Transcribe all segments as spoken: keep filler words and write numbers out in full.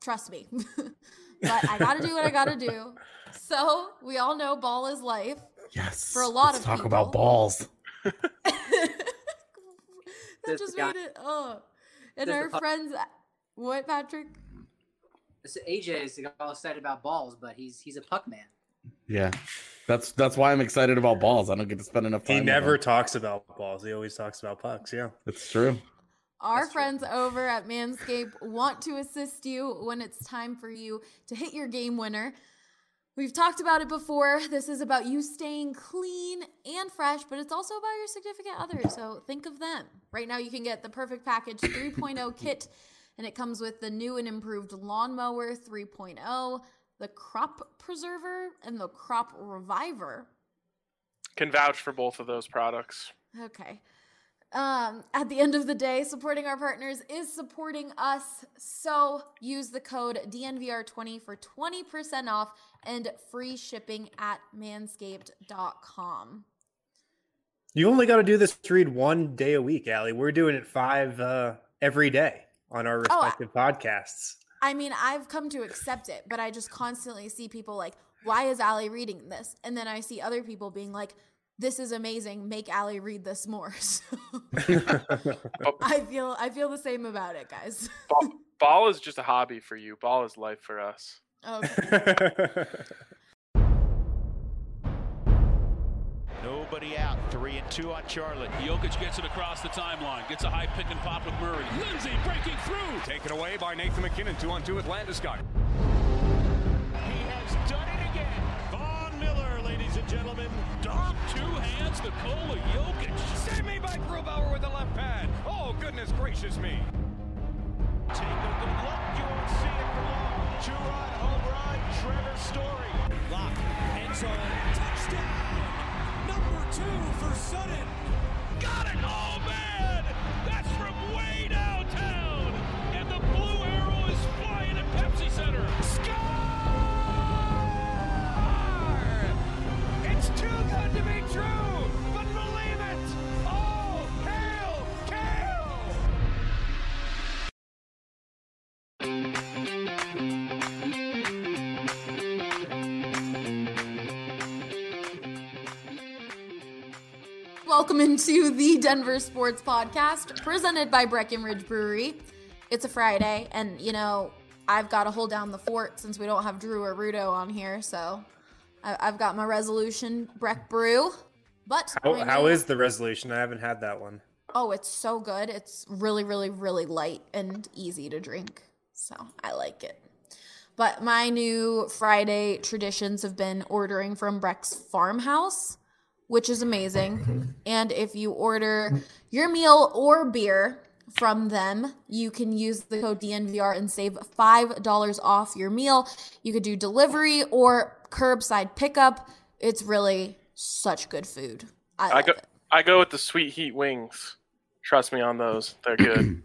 trust me. But I got to do what I got to do. So we all know ball is life. Yes. For a lot Let's of talk people. about balls. That just made it, oh. And our friends, what, Patrick? A J is all excited about balls, but he's he's a puck man. Yeah, that's that's why I'm excited about balls. I don't get to spend enough time. He never with talks about balls. He always talks about pucks. Yeah, it's true. Our That's friends true. over at Manscaped want to assist you when it's time for you to hit your game winner. We've talked about it before. This is about you staying clean and fresh, but it's also about your significant other. So think of them. Right now you can get the Perfect Package three point oh kit, and it comes with the new and improved Lawnmower three point oh, the Crop Preserver, and the Crop Reviver. Can vouch for both of those products. Okay. Um, at the end of the day, supporting our partners is supporting us. So use the code D N V R twenty for twenty percent off and free shipping at manscaped dot com. You only got to do this read one day a week, Allie. We're doing it five uh, every day on our respective oh, podcasts. I mean, I've come to accept it, but I just constantly see people like, why is Allie reading this? And then I see other people being like, this is amazing. Make Allie read this more. So I feel I feel the same about it, guys. Ball, ball is just a hobby for you. Ball is life for us. Okay. Nobody out. Three and two on Charlotte. Jokic gets it across the timeline. Gets a high pick and pop with Murray. Lindsay breaking through. Taken away by Nathan McKinnon. Two on two with Landeskog. He has done it again. Von Miller, ladies and gentlemen. Dom, two hands, Nikola Jokic. Save me by Grubauer with the left pad. Oh, goodness gracious me. Take a good look. You won't see it for long. Two-run home run, Trevor Story. Lock, end zone, touchdown. Number two for Sutton. Got it. Oh, man. That's from way downtown. And the blue arrow is flying at Pepsi Center. Score! It's too good to be true, but believe it. Oh, hail, Kale! Welcome into the Denver Sports Podcast, presented by Breckenridge Brewery. It's a Friday, and, you know, I've got to hold down the fort since we don't have Drew or Rudo on here, so I- I've got my resolution, Breck Brew. But How, I how know- is the resolution? I haven't had that one. Oh, it's so good. It's really, really, really light and easy to drink, so I like it. But my new Friday traditions have been ordering from Breck's Farmhouse, which is amazing. And if you order your meal or beer from them, you can use the code D N V R and save five dollars off your meal. You could do delivery or curbside pickup. It's really such good food. I, I love go it. I go with the sweet heat wings. Trust me on those. They're good.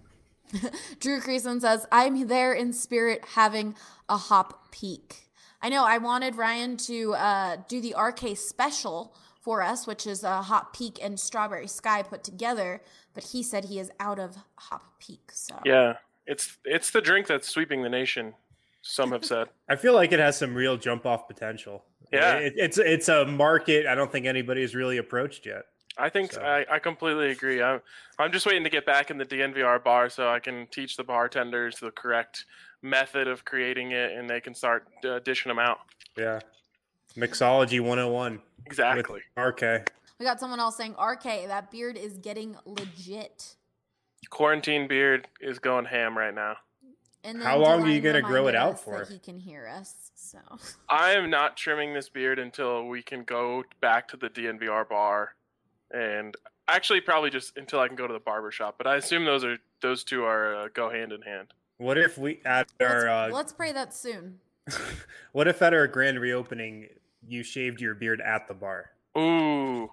Drew Creason says, I'm there in spirit having a hop peak. I know I wanted Ryan to uh, do the R K special for us, which is a Hop Peak and Strawberry Sky put together, but he said he is out of Hop Peak. So Yeah, it's it's the drink that's sweeping the nation, some have said. I feel like it has some real jump-off potential. Yeah. It, it's it's a market I don't think anybody has really approached yet. I think So. I, I completely agree. I'm I'm just waiting to get back in the D N V R bar so I can teach the bartenders the correct method of creating it, and they can start uh, dishing them out. Yeah. Mixology one oh one. Exactly. With R K. we got someone else saying, R K, that beard is getting legit. Quarantine beard is going ham right now. And How long are you Dylan gonna grow it reminded out us for? that he can hear us. So I am not trimming this beard until we can go back to the D N V R bar, and actually probably just until I can go to the barber shop. But I assume those are those two are uh, go hand in hand. What if we at our let's, uh, let's pray that soon. what if at our grand reopening you shaved your beard at the bar? Ooh,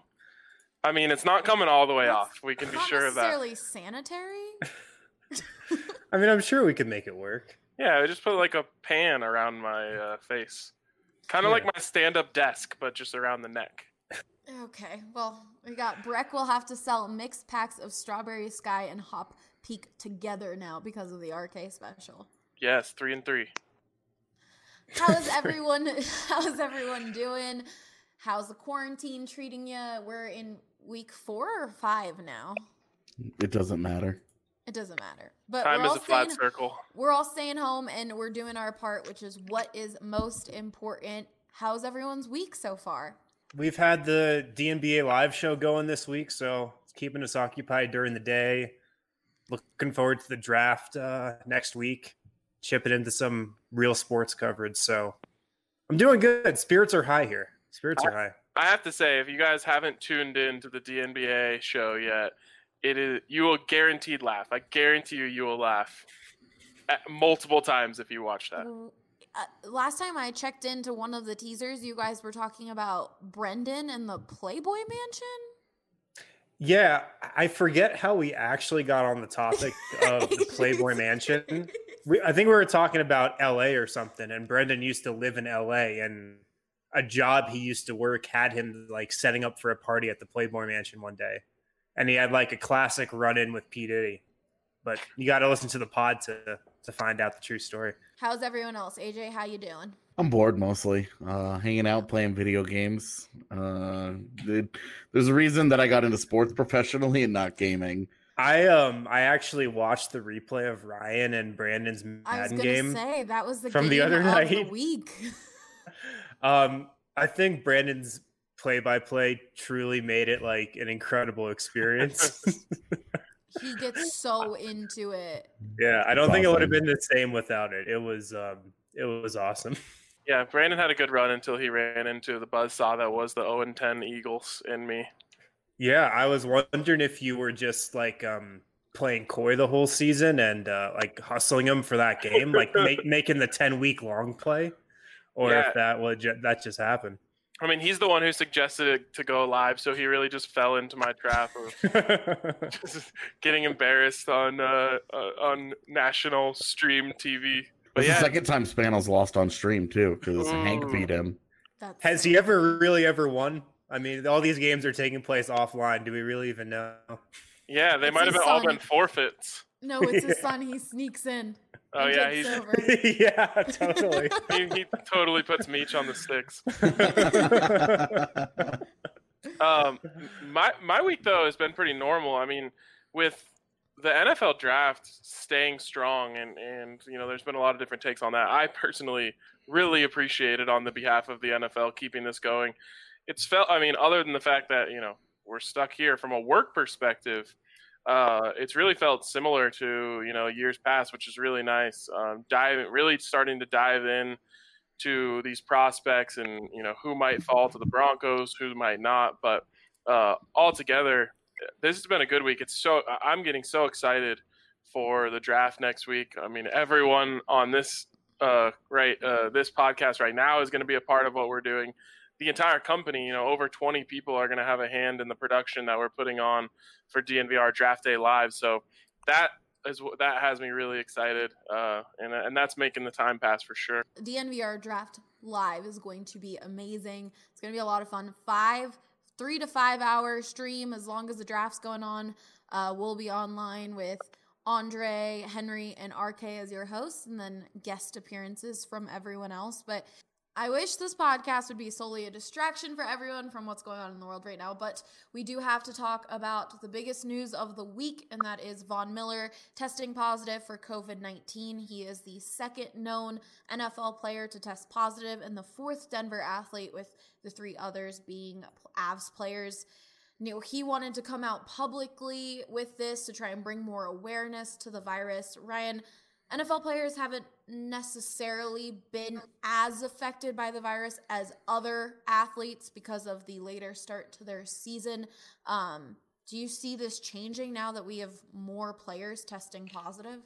I mean it's not coming all the way That's off. We can be Not sure of that. necessarily sanitary. I mean, I'm sure we could make it work. Yeah, I just put like a pan around my uh, face, kind of Yeah. like my stand-up desk, but just around the neck. Okay, well, we got Breck will have to sell mixed packs of Strawberry Sky and Hop Peak together now because of the R K special. Yes, three and three. How's everyone? How's everyone doing? How's the quarantine treating you? We're in week four or five now. It doesn't matter. It doesn't matter. But Time we're is all a flat staying, circle. We're all staying home and we're doing our part, which is what is most important. How's everyone's week so far? We've had the D N B A live show going this week, so it's keeping us occupied during the day. Looking forward to the draft uh, next week. Chipping into some real sports coverage. So I'm doing good. Spirits are high here. Spirits are high. I have to say, if you guys haven't tuned in to the D N B A show yet, it is you will guaranteed laugh. I guarantee you, you will laugh at multiple times if you watch that. Uh, last time I checked into one of the teasers, you guys were talking about Brendan and the Playboy Mansion. Yeah, I forget how we actually got on the topic of the Playboy Mansion. We, I think we were talking about L A or something, and Brendan used to live in L A, and a job he used to work had him like setting up for a party at the Playboy Mansion one day, and he had like a classic run-in with P. Diddy. But you got to listen to the pod to to find out the true story. How's everyone else? A J, how you doing? I'm bored mostly, uh, hanging out, playing video games. Uh, it, there's a reason that I got into sports professionally and not gaming. I um I actually watched the replay of Ryan and Brandon's Madden I was gonna game say that was the from game the other of night. the week. um, I think Brandon's play-by-play truly made it like an incredible experience. He gets so into it. Yeah, I don't It's think it would have awesome. been the same without it. It was um it was awesome. Yeah, Brandon had a good run until he ran into the buzzsaw that was the oh and ten Eagles in me. Yeah, I was wondering if you were just like um playing coy the whole season and uh, like hustling them for that game, like make, making the ten week long play, or Yeah. if that would ju- that just happened. I mean, he's the one who suggested it to go live, so he really just fell into my trap of just getting embarrassed on uh, uh, on national stream T V. But It's yeah, the second time Spanels lost on stream too, because Hank Ooh. beat him. That's Has he ever really ever won? I mean, all these games are taking place offline. Do we really even know? yeah, they It's might have his been all son. been forfeits. No, it's his Yeah. son. He sneaks in. Oh and yeah, takes he's over. Yeah, totally. he, he totally puts Meech on the sticks. Um, my my week though has been pretty normal. I mean, with the N F L draft staying strong, and and you know, there's been a lot of different takes on that. I personally really appreciate it on the behalf of the N F L keeping this going. It's felt. I mean, other than the fact that you know we're stuck here from a work perspective, uh, it's really felt similar to you know years past, which is really nice. Um, dive really starting to dive in to these prospects and you know who might fall to the Broncos, who might not, but uh, altogether, this has been a good week. It's so I'm getting so excited for the draft next week. I mean, everyone on this uh, right uh, this podcast right now is going to be a part of what we're doing. The entire company, you know, over twenty people are going to have a hand in the production that we're putting on for D N V R Draft Day Live. So that is that has me really excited, uh, and and that's making the time pass for sure. D N V R Draft Live is going to be amazing. It's going to be a lot of fun. Five, three to five hour stream as long as the draft's going on. Uh, we'll be online with Andre, Henry, and R K as your hosts, and then guest appearances from everyone else. But I wish this podcast would be solely a distraction for everyone from what's going on in the world right now, but we do have to talk about the biggest news of the week, and that is Von Miller testing positive for covid nineteen. He is the second known N F L player to test positive and the fourth Denver athlete, with the three others being Avs players. You know, he wanted to come out publicly with this to try and bring more awareness to the virus. Ryan, N F L players haven't necessarily been as affected by the virus as other athletes because of the later start to their season. Um, do you see this changing now that we have more players testing positive?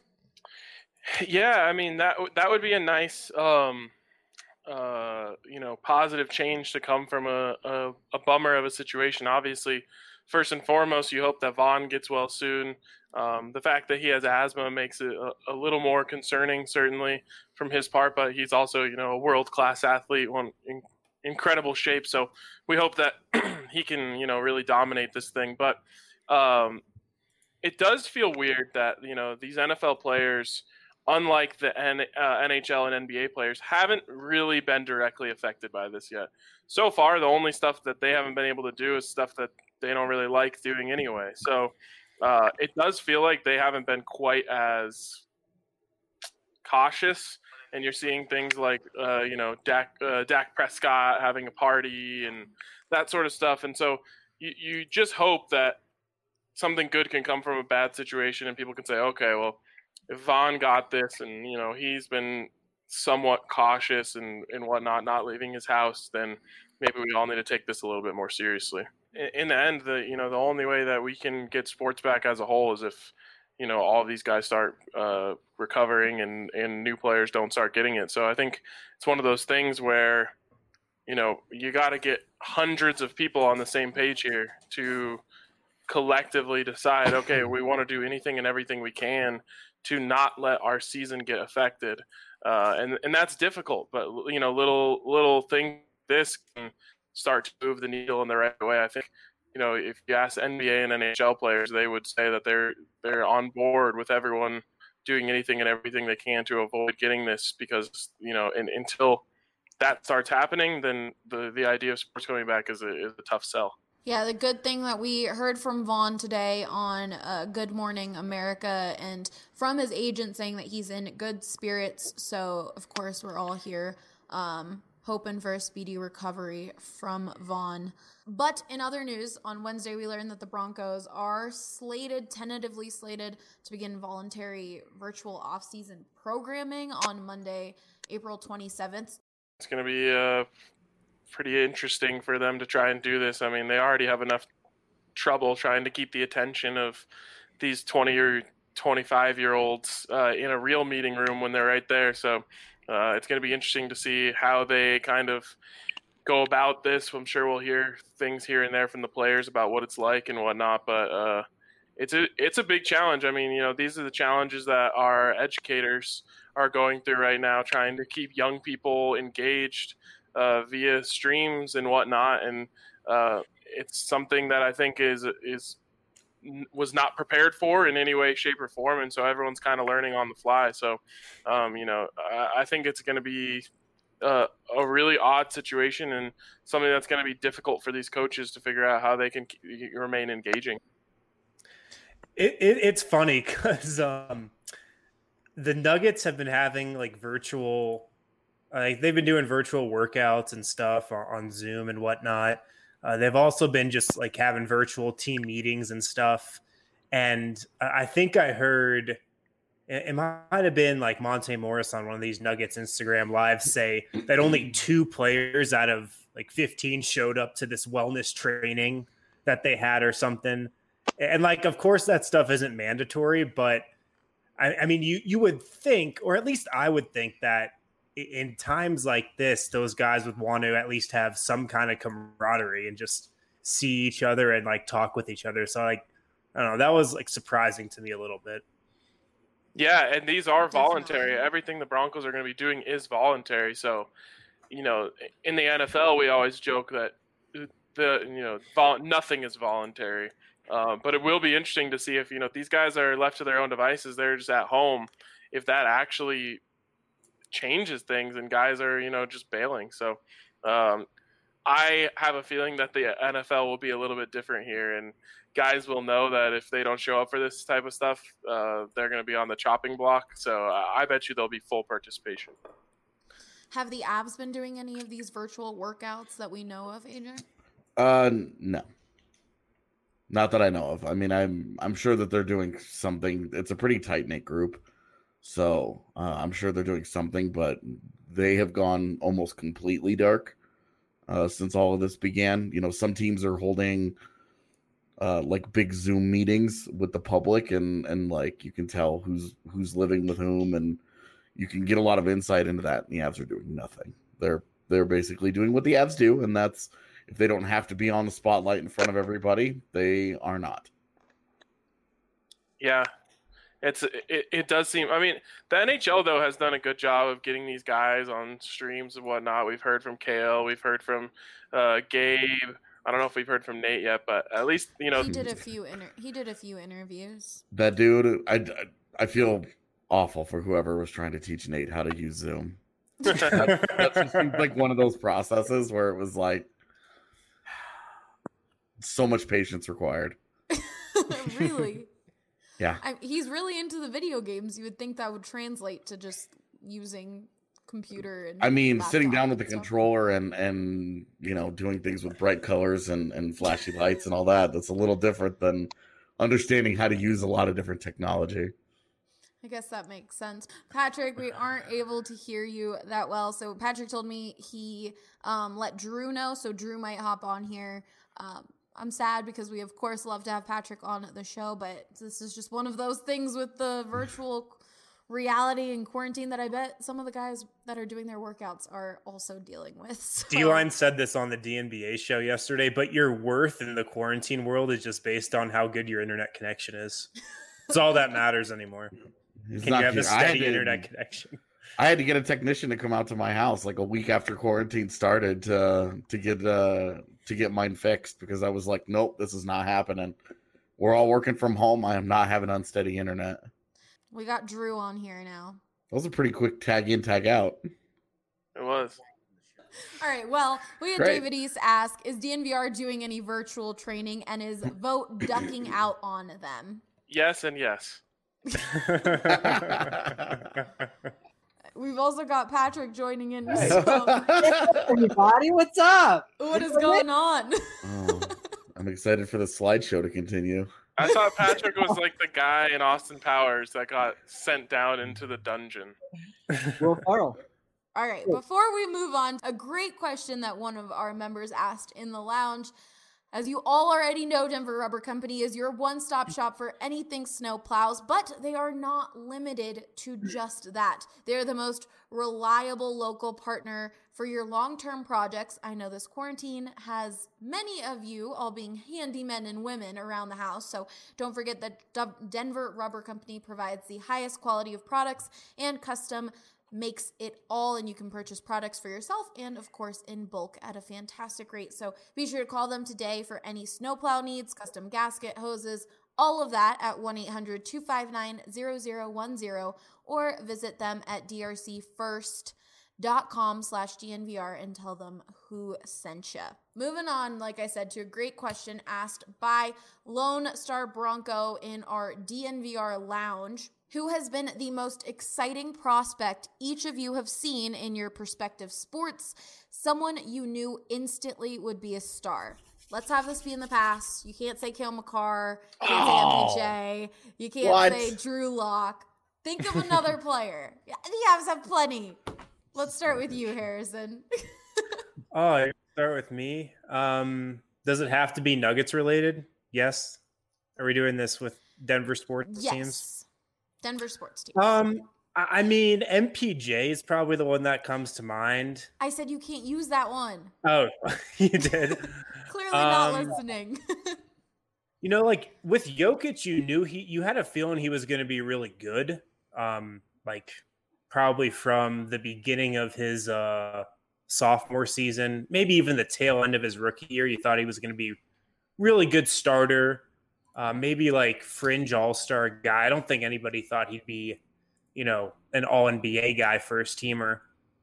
Yeah, I mean that that would be a nice, um, uh, you know, positive change to come from a, a a bummer of a situation. Obviously, first and foremost, you hope that Vaughn gets well soon. Um, the fact that he has asthma makes it a, a little more concerning, certainly from his part. But he's also, you know, a world-class athlete, one in incredible shape. So we hope that he can, you know, really dominate this thing. But um, it does feel weird that, you know, these N F L players unlike the N, uh, N H L and N B A players, haven't really been directly affected by this yet. So far, the only stuff that they haven't been able to do is stuff that they don't really like doing anyway. So uh, it does feel like they haven't been quite as cautious. And you're seeing things like, uh, you know, Dak, uh, Dak Prescott having a party and that sort of stuff. And so you, you just hope that something good can come from a bad situation and people can say, okay, well, if Vaughn got this and, you know, he's been somewhat cautious and, and whatnot, not leaving his house, then maybe we all need to take this a little bit more seriously. In, in the end, the you know, the only way that we can get sports back as a whole is if, you know, all of these guys start uh, recovering and, and new players don't start getting it. So I think it's one of those things where, you know, you got to get hundreds of people on the same page here to collectively decide, okay, we want to do anything and everything we can to not let our season get affected. Uh, and, and that's difficult, but, you know, little, little thing, this can start to move the needle in the right way. I think, you know, if you ask N B A and N H L players, they would say that they're they're on board with everyone doing anything and everything they can to avoid getting this because, you know, and until that starts happening, then the, the idea of sports coming back is a, is a tough sell. Yeah, the good thing that we heard from Vaughn today on uh, Good Morning America and from his agent saying that he's in good spirits. So, of course, we're all here um, hoping for a speedy recovery from Vaughn. But in other news, on Wednesday, we learned that the Broncos are slated, tentatively slated, to begin voluntary virtual offseason programming on Monday, April twenty-seventh. It's going to be uh, pretty interesting for them to try and do this. I mean, they already have enough trouble trying to keep the attention of these twenty or twenty-five-year-olds uh, in a real meeting room when they're right there. So uh, it's going to be interesting to see how they kind of go about this. I'm sure we'll hear things here and there from the players about what it's like and whatnot, but uh, it's a it's a big challenge. I mean, you know, these are the challenges that our educators are going through right now, trying to keep young people engaged uh, via streams and whatnot. And uh, it's something that I think is is was not prepared for in any way, shape, or form. And so everyone's kind of learning on the fly. So, um, you know, I, I think it's going to be Uh, a really odd situation and something that's going to be difficult for these coaches to figure out how they can keep, remain engaging. It, it, it's funny because um, the Nuggets have been having like virtual, like they've been doing virtual workouts and stuff on, on Zoom and whatnot. Uh, they've also been just like having virtual team meetings and stuff. And I think I heard it might have been like Monte Morris on one of these Nuggets Instagram lives say that only two players out of like fifteen showed up to this wellness training that they had or something. And like, of course that stuff isn't mandatory, but I, I mean, you, you would think, or at least I would think that in times like this, those guys would want to at least have some kind of camaraderie and just see each other and like talk with each other. So like, I don't know, that was like surprising to me a little bit. Yeah, and these are voluntary. Definitely. Everything the Broncos are going to be doing is voluntary. So, you know, in the N F L, we always joke that the you know vol- nothing is voluntary. Uh, but it will be interesting to see if you know if these guys are left to their own devices, they're just at home, if that actually changes things and guys are you know just bailing. So, um, I have a feeling that the N F L will be a little bit different here, and guys will know that if they don't show up for this type of stuff, uh, they're going to be on the chopping block. So uh, I bet you there'll be full participation. Have the Avs been doing any of these virtual workouts that we know of, A J? Uh, no. Not that I know of. I mean, I'm I'm sure that they're doing something. It's a pretty tight-knit group. So uh, I'm sure they're doing something, but they have gone almost completely dark uh, since all of this began. You know, some teams are holding uh, like big Zoom meetings with the public, and and like you can tell who's who's living with whom, and you can get a lot of insight into that. And the Avs are doing nothing. They're they're basically doing what the Avs do, and that's if they don't have to be on the spotlight in front of everybody, they are not. Yeah. It's it, it does seem. I mean, the N H L though has done a good job of getting these guys on streams and whatnot. We've heard from Kale, we've heard from uh, Gabe. I don't know if we've heard from Nate yet, but at least you know he did a few inter- he did a few interviews. That dude, I, I feel awful for whoever was trying to teach Nate how to use Zoom. that, that just seemed like one of those processes where it was like so much patience required. Really? Yeah. I, he's really into the video games. You would think that would translate to just using computer and I mean, laptop sitting down with the and stuff. controller and and you know doing things with bright colors and and flashy lights and all that. That's a little different than understanding how to use a lot of different technology. I guess that makes sense. Patrick, we aren't able to hear you that well. So Patrick told me he um, let Drew know, so Drew might hop on here. Um, I'm sad because we, of course, love to have Patrick on the show, but this is just one of those things with the virtual reality and quarantine that I bet some of the guys that are doing their workouts are also dealing with. So. D-Line said this on the D N B A show yesterday, but your worth in the quarantine world is just based on how good your internet connection is. It's all that matters anymore. It's Can you have cute. a I had steady to- internet connection? I had to get a technician to come out to my house like a week after quarantine started to to get uh to get mine fixed because I was like, nope, this is not happening. We're all working from home. I am not having unsteady internet. We got Drew on here now. That was a pretty quick tag in, tag out. It was. All right, well, we had Great. David East ask, is D N V R doing any virtual training and is Vote ducking out on them? Yes and yes. We've also got Patrick joining in. Hey. So Everybody, what's up? what is going on? Oh, I'm excited for the slideshow to continue. I thought Patrick was like the guy in Austin Powers that got sent down into the dungeon. Will Ferrell. All right, before we move on, a great question that one of our members asked in the lounge. As you all already know, Denver Rubber Company is your one-stop shop for anything snow plows, but they are not limited to just that. They're the most reliable local partner for your long-term projects. I know this quarantine has many of you all being handymen and women around the house, so don't forget that Denver Rubber Company provides the highest quality of products and custom makes it all, and you can purchase products for yourself and of course in bulk at a fantastic rate. So be sure to call them today for any snowplow needs, custom gasket, hoses, all of that at one eight hundred two five nine zero zero one zero or visit them at d r c first dot com slash D N V R and tell them who sent you. Moving on, like I said, to a great question asked by Lone Star Bronco in our D N V R lounge. Who has been the most exciting prospect each of you have seen in your prospective sports? Someone you knew instantly would be a star. Let's have this be in the past. You can't say Cale Makar. You can't Oh. say M P J. You can't What? say Drew Lock. Think of another player. Yeah, the Avs have plenty. Let's start with you, Harrison. Oh, I start with me. Um, does it have to be Nuggets related? Yes. Are we doing this with Denver sports Yes. teams? Denver sports teams. Um, I I mean, M P J is probably the one that comes to mind. I said you can't use that one. Oh, you did. Clearly not Um, listening. You know, like with Jokic, you knew he, you had a feeling he was going to be really good. Um, like probably from the beginning of his uh, sophomore season, maybe even the tail end of his rookie year, you thought he was going to be really good starter. Uh, maybe like fringe all-star guy. I don't think anybody thought he'd be, you know, an all N B A guy, first teamer.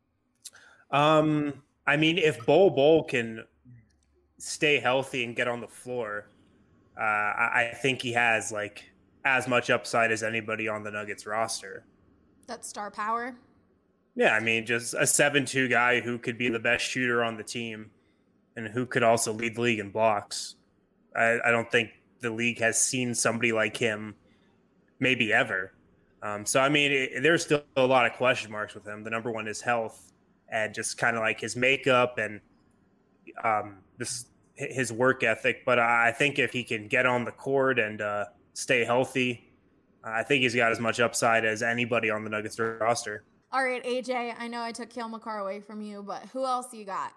Um, I mean, if Bol Bol can stay healthy and get on the floor, uh, I, I think he has like as much upside as anybody on the Nuggets roster. That's star power. Yeah, I mean, just a seven two guy who could be the best shooter on the team and who could also lead the league in blocks. I, I don't think the league has seen somebody like him maybe ever. Um, so, I mean, it, there's still a lot of question marks with him. The number one is health and just kind of like his makeup and um, this his work ethic. But I think if he can get on the court and uh, stay healthy, I think he's got as much upside as anybody on the Nuggets roster. All right, A J, I know I took Cale Makar away from you, but who else you got?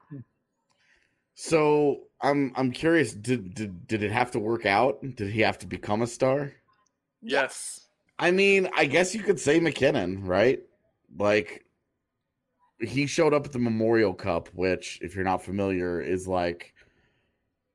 So I'm I'm curious. Did did did it have to work out? Did he have to become a star? Yes. I mean, I guess you could say McKinnon, right? Like he showed up at the Memorial Cup, which, if you're not familiar, is like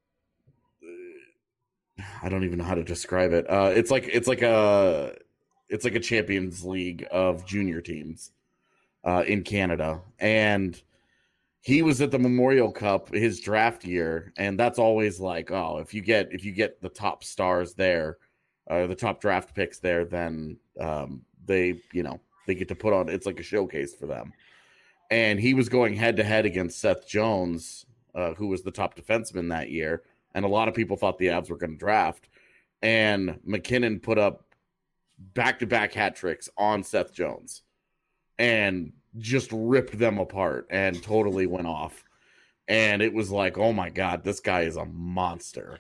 I don't even know how to describe it. Uh, it's like it's like a it's like a Champions League of junior teams uh, in Canada. And he was at the Memorial Cup his draft year, and that's always like, oh, if you get if you get the top stars there, uh, the top draft picks there, then um, they you know they get to put on, it's like a showcase for them. And he was going head to head against Seth Jones, uh, who was the top defenseman that year, and a lot of people thought the Avs were going to draft. And McKinnon put up back-to-back hat tricks on Seth Jones and just ripped them apart and totally went off. And it was like, oh my God, this guy is a monster.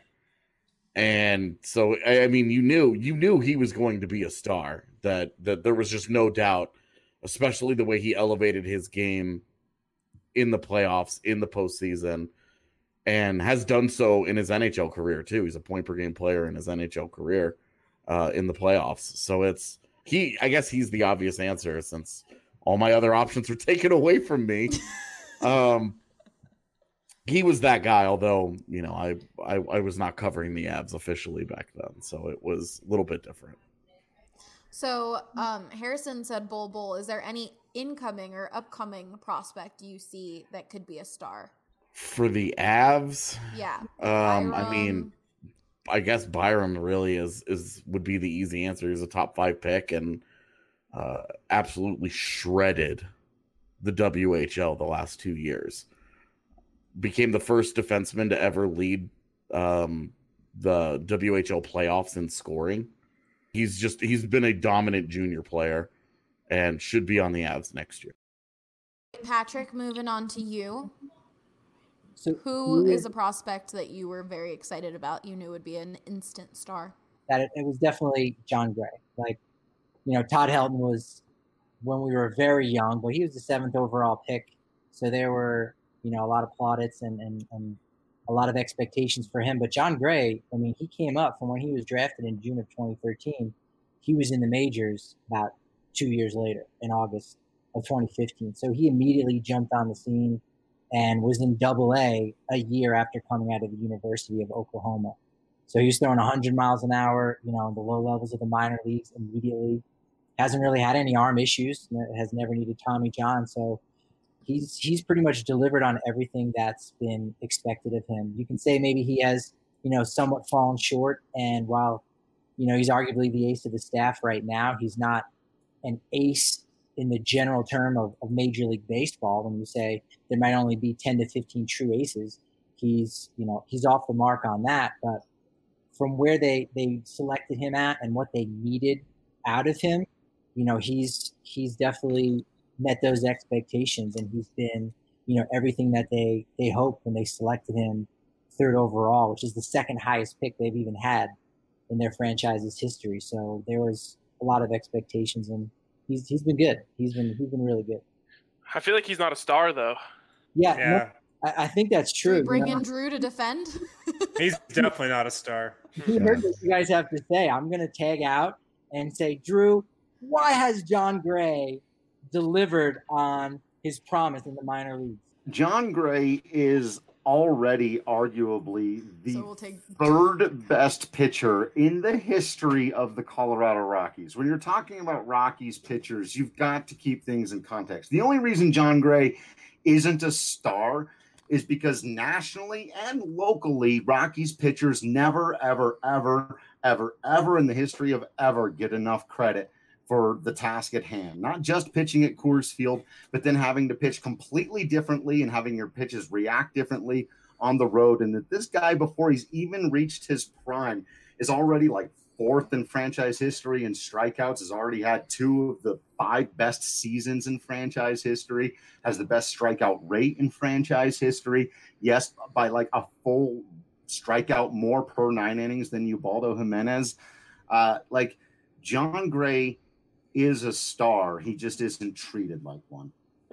And so, I mean, you knew, you knew he was going to be a star, that, that there was just no doubt, especially the way he elevated his game in the playoffs, in the postseason, and has done so in his N H L career too. He's a point per game player in his N H L career uh, in the playoffs. So it's, he, I guess he's the obvious answer since all my other options were taken away from me. um, he was that guy, although, you know, I, I, I was not covering the Avs officially back then. So it was a little bit different. So um, Harrison said Bol Bol. Is there any incoming or upcoming prospect you see that could be a star? For the Avs? Yeah. Um, I mean, I guess Byram really is, is would be the easy answer. He's a top five pick and uh, absolutely shredded the W H L the last two years. Became the first defenseman to ever lead um, the W H L playoffs in scoring. He's just, he's been a dominant junior player and should be on the Avs next year. Patrick, moving on to you. So Who is a prospect that you were very excited about, you knew would be an instant star? That it, it was definitely John Gray. Like, you know, Todd Helton was when we were very young, but he was the seventh overall pick. So there were, you know, a lot of plaudits and, and, and a lot of expectations for him. But John Gray, I mean, he came up from when he was drafted in June of twenty thirteen. He was in the majors about two years later in August of twenty fifteen. So he immediately jumped on the scene and was in double A a year after coming out of the University of Oklahoma. So he was throwing one hundred miles an hour, you know, in the low levels of the minor leagues immediately. Hasn't really had any arm issues, has never needed Tommy John. So he's he's pretty much delivered on everything that's been expected of him. You can say maybe he has, you know, somewhat fallen short. And while, you know, he's arguably the ace of the staff right now, he's not an ace in the general term of, of Major League Baseball. When you say there might only be ten to fifteen true aces, he's, you know, he's off the mark on that. But from where they, they selected him at and what they needed out of him, you know, he's, he's definitely met those expectations, and he's been, you know, everything that they, they hoped when they selected him third overall, which is the second highest pick they've even had in their franchise's history. So there was a lot of expectations, and he's, he's been good. He's been, he's been really good. I feel like he's not a star though. Yeah. Yeah. No, I, I think that's true. Should we bring you know? in Drew to defend? He's definitely not a star. He heard what you guys have to say. I'm going to tag out and say, Drew, why has John Gray delivered on his promise in the minor leagues? John Gray is already arguably the So we'll take- third best pitcher in the history of the Colorado Rockies. When you're talking about Rockies pitchers, you've got to keep things in context. The only reason John Gray isn't a star is because nationally and locally, Rockies pitchers never, ever, ever, ever, ever in the history of ever get enough credit for the task at hand. Not just pitching at Coors Field, but then having to pitch completely differently and having your pitches react differently on the road. And that this guy, before he's even reached his prime, is already like fourth in franchise history in strikeouts, has already had two of the five best seasons in franchise history, has the best strikeout rate in franchise history. Yes, by like a full strikeout more per nine innings than Ubaldo Jimenez. Uh, like John Gray is a star. He just isn't treated like one.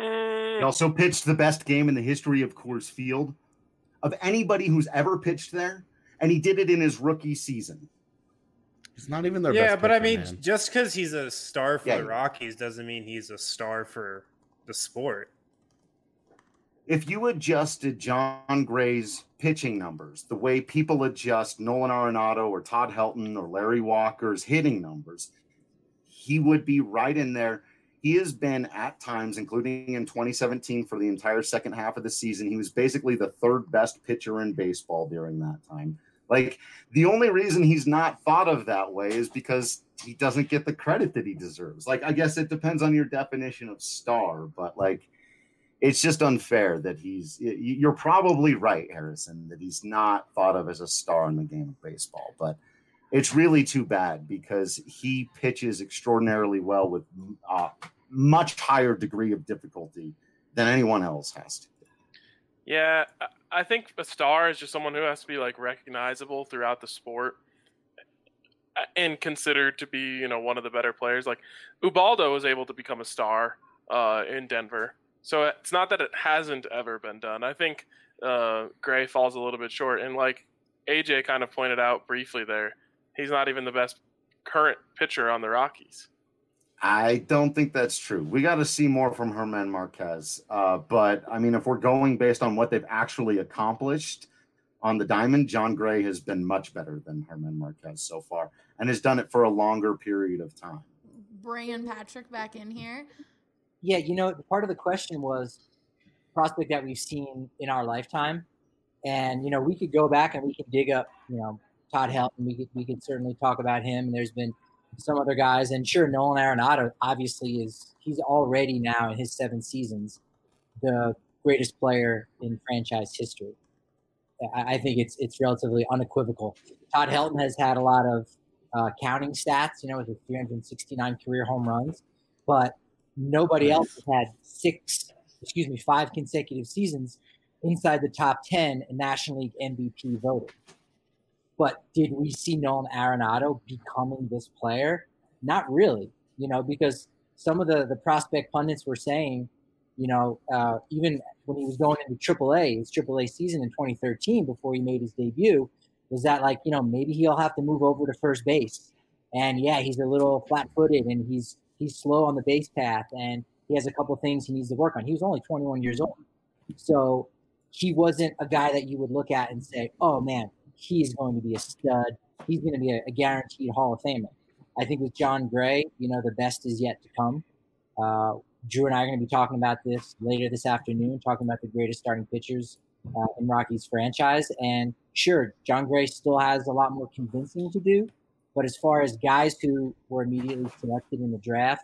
He also pitched the best game in the history of Coors Field of anybody who's ever pitched there, and he did it in his rookie season. He's not even their Yeah, best but I pitcher, mean, man. just because he's a star for Yeah. the Rockies doesn't mean he's a star for the sport. If you adjusted John Gray's pitching numbers the way people adjust Nolan Arenado or Todd Helton or Larry Walker's hitting numbers, he would be right in there. He has been at times, including in twenty seventeen for the entire second half of the season, he was basically the third best pitcher in baseball during that time. Like, the only reason he's not thought of that way is because he doesn't get the credit that he deserves. Like, I guess it depends on your definition of star, but like, it's just unfair that he's, you're probably right, Harrison, that he's not thought of as a star in the game of baseball, but it's really too bad because he pitches extraordinarily well with a much higher degree of difficulty than anyone else has to. Yeah, I think a star is just someone who has to be like recognizable throughout the sport and considered to be, you know, one of the better players. Like Ubaldo was able to become a star uh, in Denver. So it's not that it hasn't ever been done. I think uh, Gray falls a little bit short. And like A J kind of pointed out briefly there, he's not even the best current pitcher on the Rockies. I don't think that's true. We got to see more from Germán Marquez. Uh, but, I mean, if we're going based on what they've actually accomplished on the diamond, John Gray has been much better than Germán Marquez so far and has done it for a longer period of time. Bringing Patrick back in here. Yeah, you know, part of the question was prospect that we've seen in our lifetime. And, you know, we could go back and we could dig up, you know, Todd Helton. We could, we could certainly talk about him. And there's been some other guys. And sure, Nolan Arenado obviously is – he's already now in his seven seasons the greatest player in franchise history. I, I think it's it's relatively unequivocal. Todd Helton has had a lot of uh, counting stats, you know, with his three hundred sixty-nine career home runs. But nobody else has had six – excuse me, five consecutive seasons inside the top ten in National League M V P voting. But did we see Nolan Arenado becoming this player? Not really, you know, because some of the, the prospect pundits were saying, you know, uh, even when he was going into triple A, his triple A season in twenty thirteen before he made his debut, was that like, you know, maybe he'll have to move over to first base. And yeah, he's a little flat-footed and he's he's slow on the base path and he has a couple of things he needs to work on. He was only twenty-one years old. So he wasn't a guy that you would look at and say, oh, man, he's going to be a stud. He's going to be a, a guaranteed Hall of Famer. I think with John Gray, you know, the best is yet to come. Uh, Drew and I are going to be talking about this later this afternoon, talking about the greatest starting pitchers uh, in Rockies franchise. And sure, John Gray still has a lot more convincing to do. But as far as guys who were immediately selected in the draft,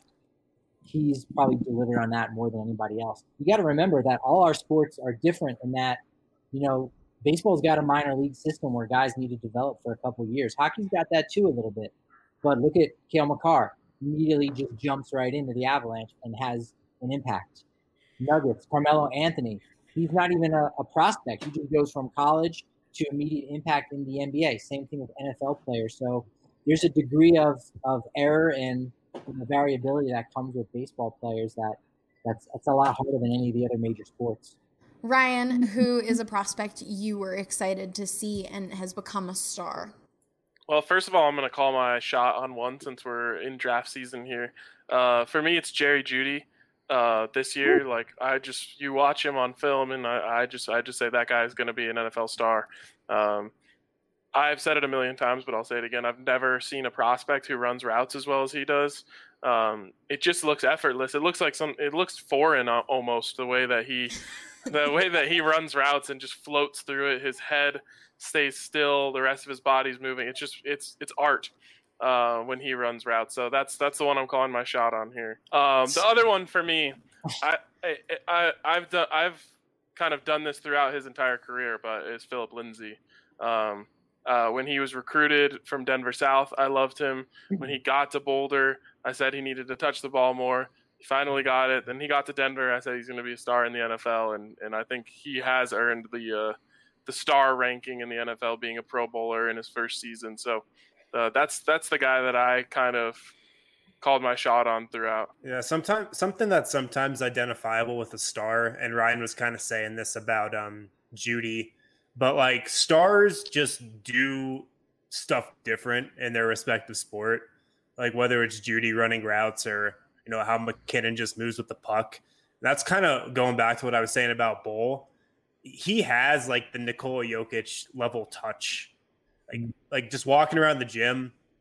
he's probably delivered on that more than anybody else. You got to remember that all our sports are different in that, you know, baseball's got a minor league system where guys need to develop for a couple of years. Hockey's got that too a little bit. But look at Cale Makar. Immediately just jumps right into the Avalanche and has an impact. Nuggets, Carmelo Anthony. He's not even a, a prospect. He just goes from college to immediate impact in the N B A. Same thing with N F L players. So there's a degree of, of error and, and the variability that comes with baseball players that that's, that's a lot harder than any of the other major sports. Ryan, who is a prospect you were excited to see and has become a star? Well, first of all, I'm going to call my shot on one since we're in draft season here. Uh, for me, it's Jerry Jeudy. Uh, this year, like I just you watch him on film, and I, I just I just say that guy is going to be an N F L star. Um, I've said it a million times, but I'll say it again. I've never seen a prospect who runs routes as well as he does. Um, it just looks effortless. It looks like some. It looks foreign uh, almost the way that he, the way that he runs routes and just floats through it. His head stays still. The rest of his body's moving. It's just it's it's art uh, when he runs routes. So that's that's the one I'm calling my shot on here. Um, the other one for me, I, I I I've done I've kind of done this throughout his entire career, but is Philip Lindsay. Um, Uh, when he was recruited from Denver South, I loved him. When he got to Boulder, I said he needed to touch the ball more. He finally got it. Then he got to Denver. I said he's going to be a star in the N F L, and, and I think he has earned the uh, the star ranking in the N F L, being a Pro Bowler in his first season. So uh, that's that's the guy that I kind of called my shot on throughout. Yeah, sometimes something that's sometimes identifiable with a star, and Ryan was kind of saying this about um, Jeudy. But, like, stars just do stuff different in their respective sport. Like, whether it's Jeudy running routes or, you know, how McKinnon just moves with the puck. That's kind of going back to what I was saying about Bull. He has, like, the Nikola Jokic level touch. Like, like just walking around the gym,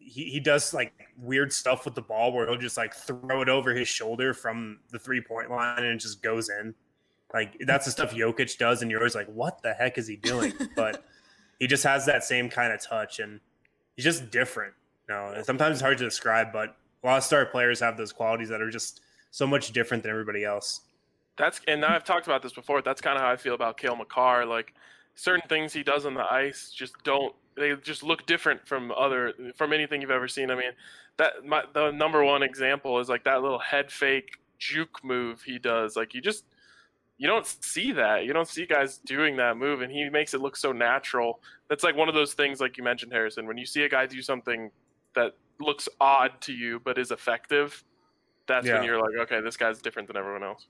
he, he does like weird stuff with the ball where he'll just like throw it over his shoulder from the three point line and it just goes in. Like that's the stuff Jokic does, and you're always like, what the heck is he doing? But he just has that same kind of touch, and he's just different. You know, and sometimes it's hard to describe, but a lot of star players have those qualities that are just so much different than everybody else. That's and I've talked about this before. That's kind of how I feel about Cale Makar. Like certain things he does on the ice just don't. They just look different from other from anything you've ever seen. I mean, that my, the number one example is like that little head fake juke move he does. Like you just you don't see that. You don't see guys doing that move, and he makes it look so natural. That's like one of those things, like you mentioned, Harrison. When you see a guy do something that looks odd to you but is effective, that's Yeah. when you're like, okay, this guy's different than everyone else.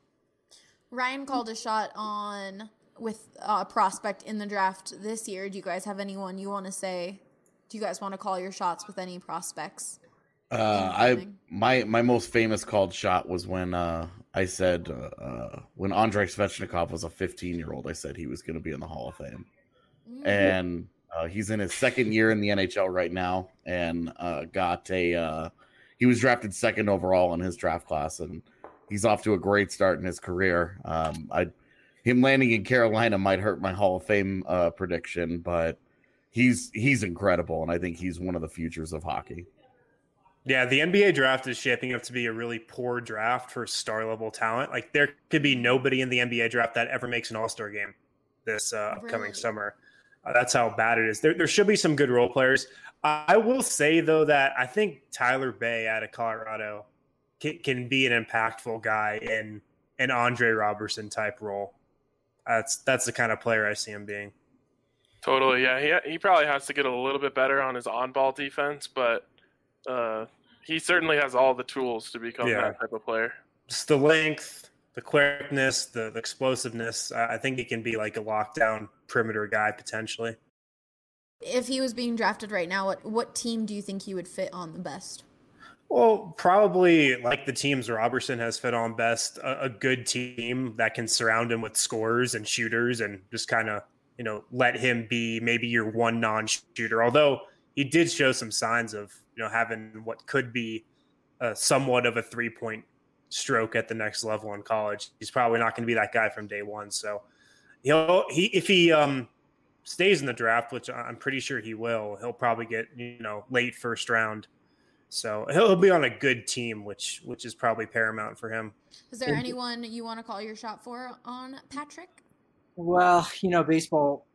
Ryan called a shot on with a prospect in the draft this year. Do you guys have anyone you want to say? Do you guys want to call your shots with any prospects? Uh, I my my most famous called shot was when uh, I said uh, uh, when Andrei Svechnikov was a fifteen year old. I said he was going to be in the Hall of Fame, Mm. and uh, he's in his second year in the N H L right now, and uh, got a uh, he was drafted second overall in his draft class, and he's off to a great start in his career. Um, I him landing in Carolina might hurt my Hall of Fame uh, prediction, but he's he's incredible, and I think he's one of the futures of hockey. Yeah, the N B A draft is shaping up to be a really poor draft for star level talent. Like there could be nobody in the N B A draft that ever makes an All-Star game this uh, upcoming Really? summer. Uh, that's how bad it is. There, there should be some good role players. I will say though that I think Tyler Bay out of Colorado can, can be an impactful guy in an Andre Robertson type role. That's that's the kind of player I see him being. Totally, yeah. He he probably has to get a little bit better on his on-ball defense, but uh, he certainly has all the tools to become Yeah. that type of player. Just the length, the quickness, the, the explosiveness. I I think he can be like a lockdown perimeter guy potentially. If he was being drafted right now, what what team do you think he would fit on the best? Well, probably like the teams Robertson has fit on best, a, a good team that can surround him with scorers and shooters and just kind of, you know, let him be maybe your one non-shooter. Although he did show some signs of, you know, having what could be a, somewhat of a three-point stroke at the next level in college. He's probably not going to be that guy from day one. So he'll he if he um stays in the draft, which I'm pretty sure he will, he'll probably get, you know, late first round. So he'll, he'll be on a good team, which which is probably paramount for him. Is there anyone you want to call your shot for on Patrick? Well, you know, baseball,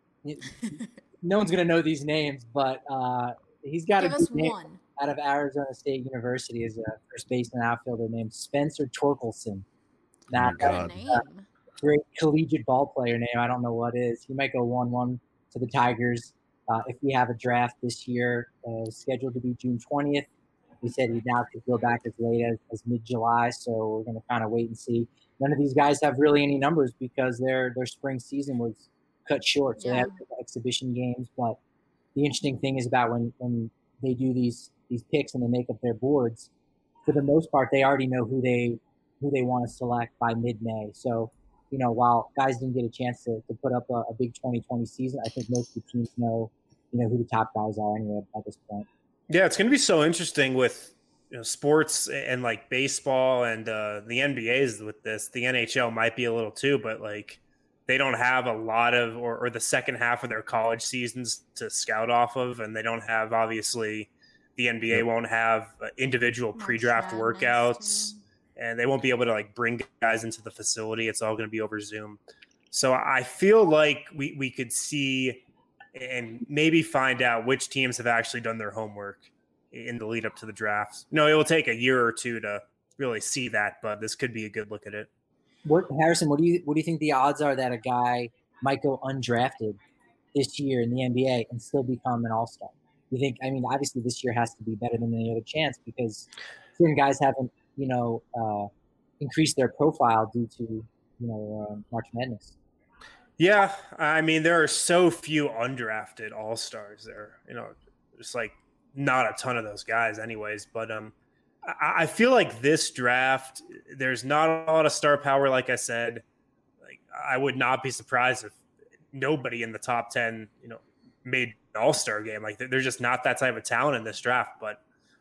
no one's going to know these names, but uh, he's got Give a us good name one. out of Arizona State University as a first baseman outfielder named Spencer Torkelson. Now, Oh my What a God. name. great collegiate ball player name. I don't know what is. He might go one one to the Tigers. Uh, if we have a draft this year, uh, scheduled to be June twentieth. He said he now could go back as late as, as mid-July, so we're going to kind of wait and see. None of these guys have really any numbers because their their spring season was cut short, so they Yeah. have exhibition games. But the interesting thing is about when, when they do these these picks and they make up their boards, for the most part, they already know who they who they want to select by mid-May. So, you know, while guys didn't get a chance to, to put up a, a big twenty twenty season, I think most of the teams know, you know, who the top guys are anyway at this point. Yeah, it's going to be so interesting with, you know, sports and like baseball and uh, the N B A's with this. The N H L might be a little too, but like they don't have a lot of or, or the second half of their college seasons to scout off of, and they don't have obviously the N B A won't have uh, individual March pre-draft Madness, workouts. And they won't be able to like bring guys into the facility. It's all going to be over Zoom. So I feel like we, we could see and maybe find out which teams have actually done their homework in the lead up to the draft. No, it will take a year or two to really see that, but this could be a good look at it. What Harrison? What do you what do you think the odds are that a guy might go undrafted this year in the N B A and still become an all-star? You think? I mean, obviously this year has to be better than any other chance because certain guys haven't, you know, uh, increased their profile due to, you know, uh, March Madness. Yeah, I mean, there are so few undrafted all-stars there. You know, just like not a ton of those guys anyways. But um, I, I feel like this draft, there's not a lot of star power, like I said. Like I would not be surprised if nobody in the top ten, you know, made an all-star game. Like there's just not that type of talent in this draft. But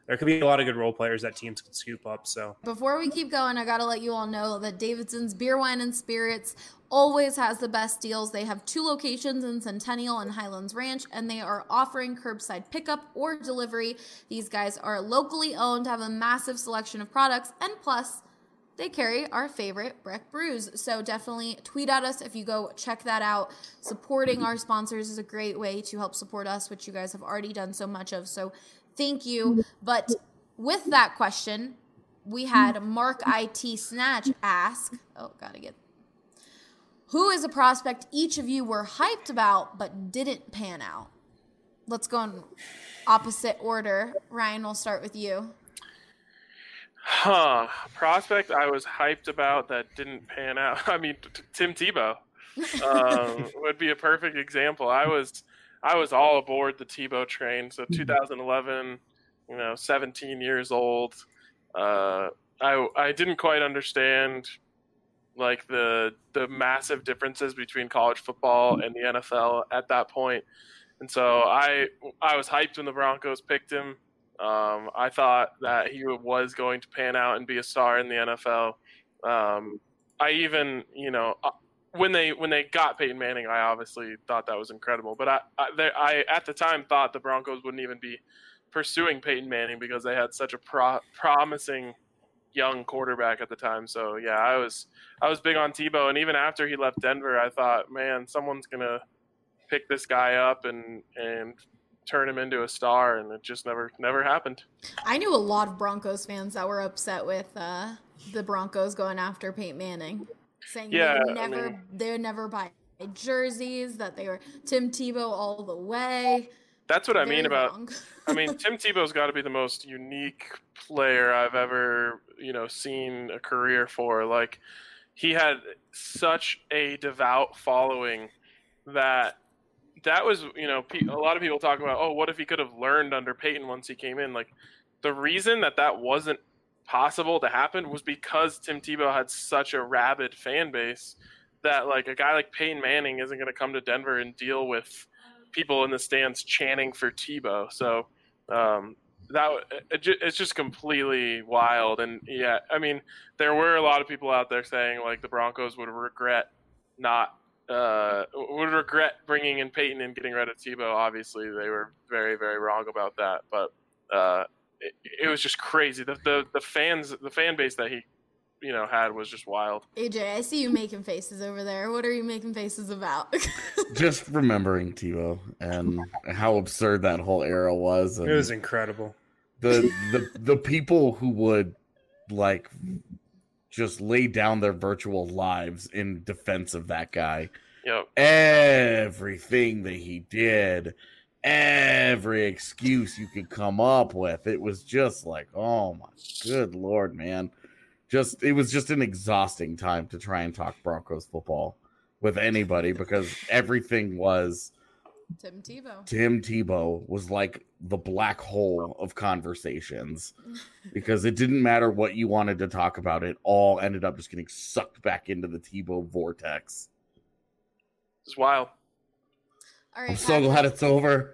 there could be a lot of good role players that teams could scoop up. So before we keep going, I got to let you all know that Davidson's Beer, Wine, and Spirits always has the best deals. They have two locations in Centennial and Highlands Ranch, and they are offering curbside pickup or delivery. These guys are locally owned, have a massive selection of products, and plus, they carry our favorite Breck brews. So definitely tweet at us if you go check that out. Supporting our sponsors is a great way to help support us, which you guys have already done so much of. So thank you. But with that question, we had Mark I T Snatch ask, oh, gotta get, who is a prospect each of you were hyped about but didn't pan out? Let's go in opposite order. Ryan, we'll start with you. Huh. Prospect I was hyped about that didn't pan out. I mean, t- Tim Tebow um, would be a perfect example. I was I was all aboard the Tebow train. So two thousand eleven, you know, seventeen years old. Uh, I I didn't quite understand like the the massive differences between college football and the N F L at that point. And so I I was hyped when the Broncos picked him. Um, I thought that he was going to pan out and be a star in the N F L. Um, I even, you know, when they when they got Peyton Manning, I obviously thought that was incredible. But I, I, they, I at the time thought the Broncos wouldn't even be pursuing Peyton Manning because they had such a pro- promising young quarterback at the time. So yeah, I was I was big on Tebow, and even after he left Denver, I thought, man, someone's gonna pick this guy up and and turn him into a star, and it just never never happened. I knew a lot of Broncos fans that were upset with uh, the Broncos going after Peyton Manning, saying yeah, they would never I mean, they would never buy jerseys, that they were Tim Tebow all the way. That's what I Very mean about. wrong. I mean, Tim Tebow's got to be the most unique player I've ever, you know, seen a career for. Like, he had such a devout following that. That was, you know, a lot of people talk about, oh, what if he could have learned under Peyton once he came in? Like, the reason that that wasn't possible to happen was because Tim Tebow had such a rabid fan base that, like, a guy like Peyton Manning isn't going to come to Denver and deal with people in the stands chanting for Tebow. So um, that it, it's just completely wild. And, yeah, I mean, there were a lot of people out there saying, like, the Broncos would regret not Uh, would regret bringing in Peyton and getting rid of Tebow. Obviously, they were very, very wrong about that. But uh, it, it was just crazy. The, the the fans, the fan base that he, you know, had was just wild. A J, I see you making faces over there. What are you making faces about? Just remembering Tebow and how absurd that whole era was. And it was incredible. The the the people who would like just lay down their virtual lives in defense of that guy. Yep. Everything that he did, every excuse you could come up with, it was just like, oh my good Lord, man. Just it was just an exhausting time to try and talk Broncos football with anybody because everything was Tim Tebow. Tim Tebow was like the black hole of conversations because it didn't matter what you wanted to talk about. It all ended up just getting sucked back into the Tebow vortex. It's wild. All right, I'm so glad it's over.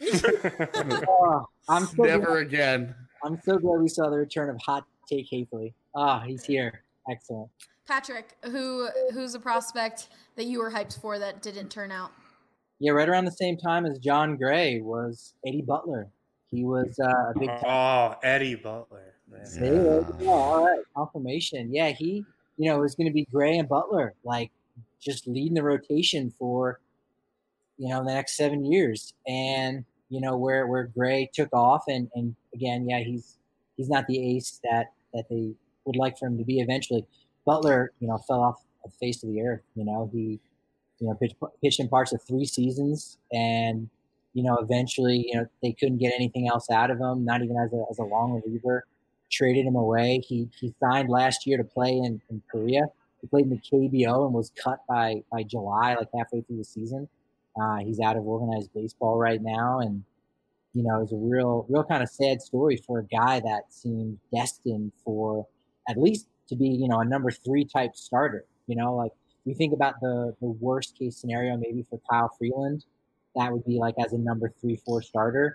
Oh, I'm so Never glad, again. I'm so glad we saw the return of Hot Take Hafley. Ah, he's here. Excellent. Patrick, who who's a prospect that you were hyped for that didn't turn out? Yeah, right around the same time as John Gray was Eddie Butler. He was uh, a big. Oh, Eddie Butler. Man. See, there you go. All right, confirmation. Yeah, he, you know, it was going to be Gray and Butler, like just leading the rotation for, you know, the next seven years. And you know where where Gray took off, and and again, yeah, he's he's not the ace that that they would like for him to be eventually. Butler, you know, fell off the face of the earth. You know, he, you know, pitched, pitched in parts of three seasons, and you know, eventually, you know, they couldn't get anything else out of him, not even as a as a long reliever. Traded him away. He he signed last year to play in, in Korea. He played in the K B O and was cut by by July, like halfway through the season. Uh, he's out of organized baseball right now, and you know, it's a real real kind of sad story for a guy that seemed destined for at least to be, you know, a number three type starter. You know, like we think about the the worst case scenario maybe for Kyle Freeland, that would be like as a number three, four starter.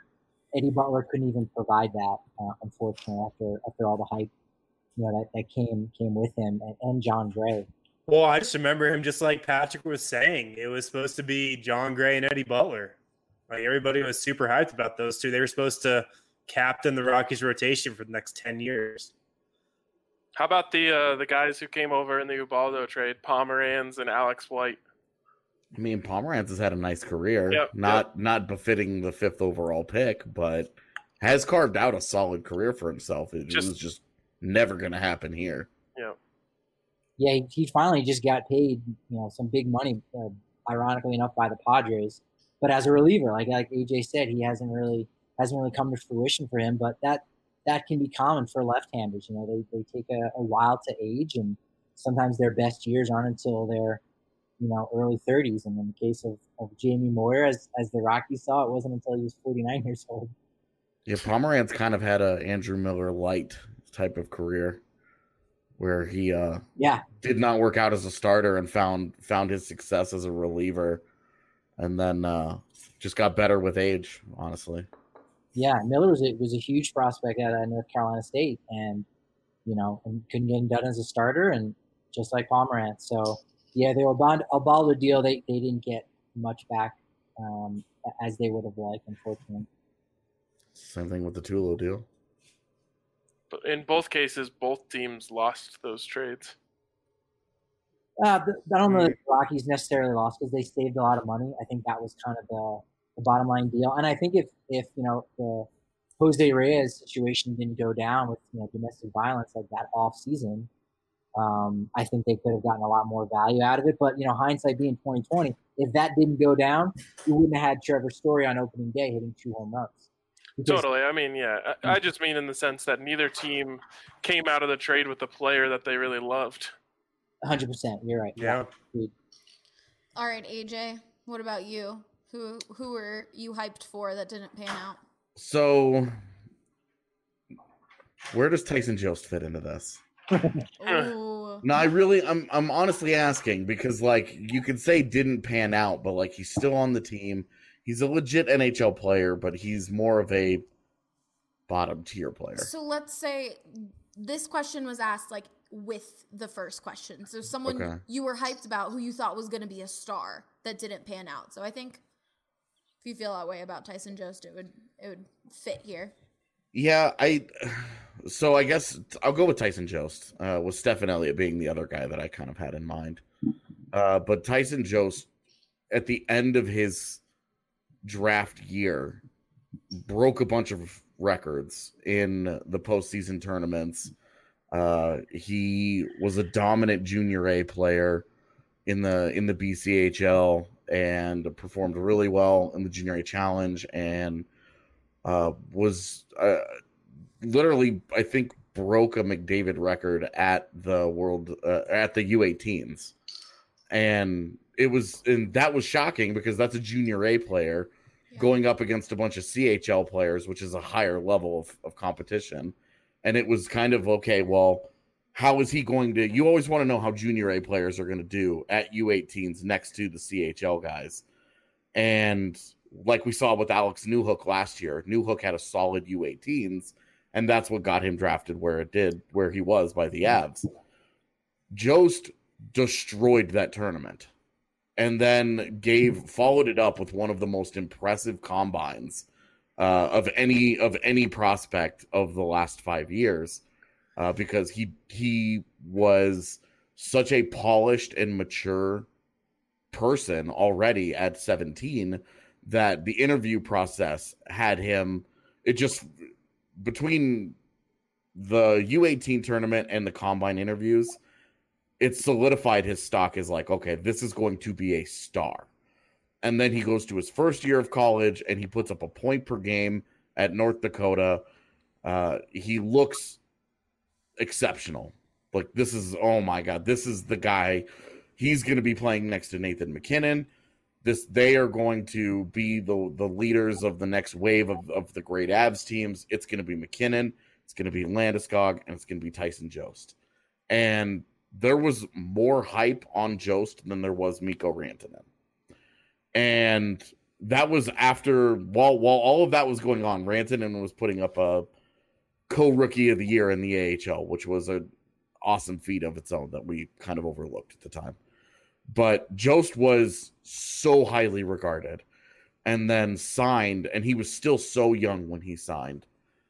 Eddie Butler couldn't even provide that, uh, unfortunately, after after all the hype, you know, that, that came came with him, and, and John Gray. Well, I just remember him, just like Patrick was saying, it was supposed to be John Gray and Eddie Butler. Like, everybody was super hyped about those two. They were supposed to captain the Rockies rotation for the next ten years. How about the uh, the guys who came over in the Ubaldo trade, Pomeranz and Alex White? I mean, Pomeranz has had a nice career, Yep, not yep. not befitting the fifth overall pick, but has carved out a solid career for himself. It Just- was just never going to happen here. Yeah. Yeah, he, he finally just got paid, you know, some big money, uh, ironically enough, by the Padres. But as a reliever, like like A J said, he hasn't really hasn't really come to fruition for him. But that that can be common for left-handers. You know, they they take a, a while to age, and sometimes their best years aren't until their, you know, early thirties. And in the case of, of Jamie Moyer, as as the Rockies saw, it wasn't until he was forty-nine years old. Yeah, Pomeranz kind of had a Andrew Miller light type of career, where he uh, Yeah, did not work out as a starter and found found his success as a reliever, and then uh, just got better with age. Honestly, yeah. Miller was a, was a huge prospect at uh, North Carolina State, and you know, and couldn't get him done as a starter, and just like Pomerantz. So yeah, they were bond a Baldo deal. They they didn't get much back um, as they would have liked, unfortunately. same thing with the Tulo deal. But in both cases, both teams lost those trades. Uh, but I don't know that the Rockies necessarily lost because they saved a lot of money. I think that was kind of the, the bottom line deal. And I think if, if you know, the Jose Reyes situation didn't go down with, you know, domestic violence like that off season, um, I think they could have gotten a lot more value out of it. But, you know, hindsight being twenty twenty, if that didn't go down, you wouldn't have had Trevor Story on opening day hitting two home runs. Because- Totally. I mean, yeah. I, I just mean in the sense that neither team came out of the trade with a player that they really loved. one hundred percent. You're right. Yeah. All right, A J, what about you? Who who were you hyped for that didn't pan out? So, where does Tyson Jost fit into this? Ooh. No, I really, I'm, I'm honestly asking because, like, you could say didn't pan out, but like he's still on the team. He's a legit N H L player, but he's more of a bottom tier player. So let's say this question was asked like with the first question. So someone Okay. you were hyped about who you thought was going to be a star that didn't pan out. So I think if you feel that way about Tyson Jost, it would it would fit here. Yeah, I. So I guess I'll go with Tyson Jost, uh, with Stephen Elliott being the other guy that I kind of had in mind. Uh, but Tyson Jost, at the end of his draft year, broke a bunch of records in the postseason tournaments. Uh, he was a dominant junior A player in the in the B C H L and performed really well in the junior A challenge and uh, was uh, literally, I think, broke a McDavid record at the world uh, at the U eighteens, and it was and that was shocking because that's a junior A player Yeah. going up against a bunch of C H L players, which is a higher level of, of competition. And it was kind of, okay, well, how is he going to, you always want to know how junior A players are going to do at U eighteens next to the C H L guys. And like we saw with Alex Newhook last year, Newhook had a solid U eighteens, and that's what got him drafted where it did, where he was by the Avs. Jost destroyed that tournament and then gave followed it up with one of the most impressive combines uh, of any of any prospect of the last five years, uh, because he he was such a polished and mature person already at seventeen that the interview process had him. It just between the U eighteen tournament and the combine interviews, it solidified his stock as like, okay, this is going to be a star. And then he goes to his first year of college and he puts up a point per game at North Dakota. Uh, he looks exceptional. Like, this is, oh my God, this is the guy. He's going to be playing next to Nathan McKinnon. This, they are going to be the, the leaders of the next wave of, of the great Avs teams. It's going to be McKinnon. It's going to be Landeskog, and it's going to be Tyson Jost. And there was more hype on Jost than there was Mikko Rantanen. And that was after while while all of that was going on, Rantanen was putting up a co-rookie of the year in the A H L, which was an awesome feat of its own that we kind of overlooked at the time. But Jost was so highly regarded and then signed, and he was still so young when he signed.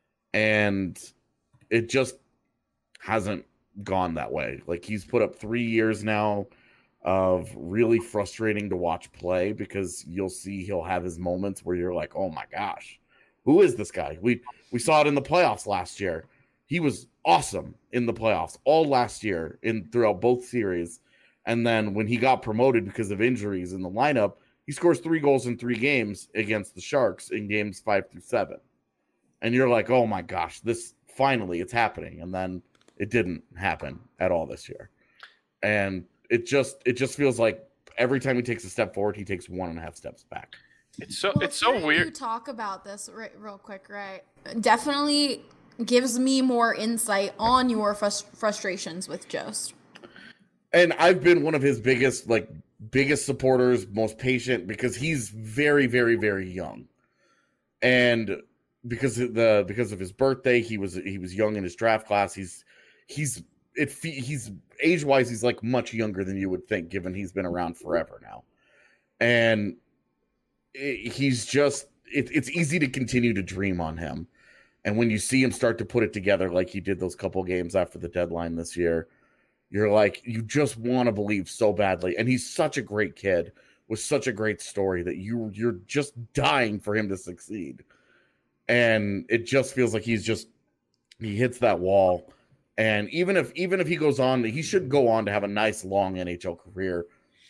And it just hasn't gone that way. Like, he's put up three years now of really frustrating to watch play, because you'll see he'll have his moments where you're like, oh my gosh, who is this guy? We we saw it in the playoffs last year. He was awesome in the playoffs all last year in throughout both series. And then when he got promoted because of injuries in the lineup, he scores three goals in three games against the Sharks in games five through seven. And you're like, oh my gosh, this finally it's happening. And then it didn't happen at all this year. And it just it just feels like every time he takes a step forward, he takes one and a half steps back. It's so well, it's so weird. You talk about this right, real quick, right? Definitely gives me more insight on your frust- frustrations with Jost. And I've been one of his biggest, like, biggest supporters, most patient, because he's very, very, very young. And because of the because of his birthday, he was he was young in his draft class. He's he's it he's age wise, he's like much younger than you would think, given he's been around forever now. And it, he's just it, it's easy to continue to dream on him. And when you see him start to put it together, like he did those couple games after the deadline this year, you're like, you just want to believe so badly. And he's such a great kid with such a great story that you you're just dying for him to succeed. And it just feels like he's just he hits that wall. And even if even if he goes on, he should go on to have a nice long N H L career.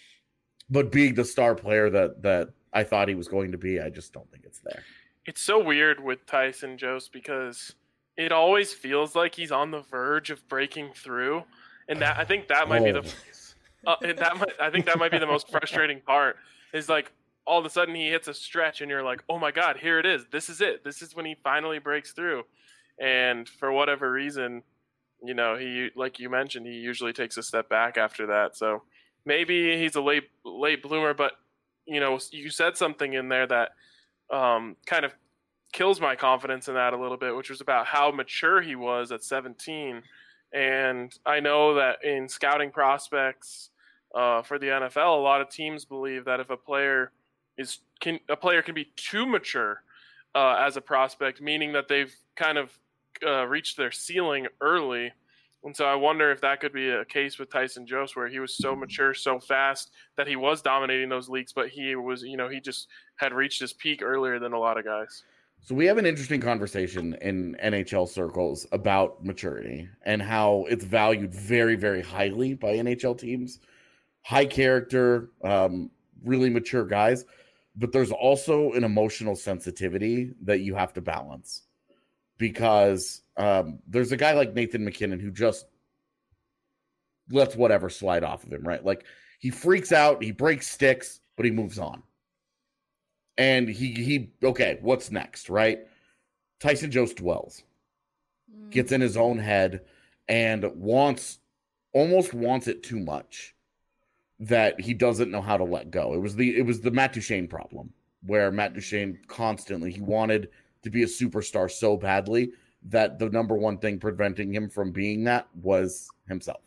But being the star player that that I thought he was going to be, I just don't think it's there. It's so weird with Tyson Jost, because it always feels like he's on the verge of breaking through, and that I think that might be the uh, that might, I think that might be the most frustrating part. Is like all of a sudden he hits a stretch, and you're like, oh my god, here it is. This is it. This is when he finally breaks through. And for whatever reason, you know, he like you mentioned, he usually takes a step back after that. So maybe he's a late late bloomer, but you know, you said something in there that um, kind of kills my confidence in that a little bit, which was about how mature he was at seventeen. And I know that in scouting prospects uh, for the N F L, a lot of teams believe that if a player is can a player can be too mature uh, as a prospect, meaning that they've kind of uh, reached their ceiling early. And so I wonder if that could be a case with Tyson Jost, where he was so mature so fast that he was dominating those leagues, but he was, you know, he just had reached his peak earlier than a lot of guys. So we have an interesting conversation in N H L circles about maturity and how it's valued very, very highly by N H L teams. High character, um, really mature guys. But there's also an emotional sensitivity that you have to balance. Because um, there's a guy like Nathan MacKinnon who just lets whatever slide off of him, right? Like, he freaks out, he breaks sticks, but he moves on. And he, he okay, what's next, right? Tyson Jost dwells, mm. gets in his own head, and wants, almost wants it too much that he doesn't know how to let go. It was the it was the Matt Duchene problem, where Matt Duchene constantly, he wanted to be a superstar so badly that the number one thing preventing him from being that was himself.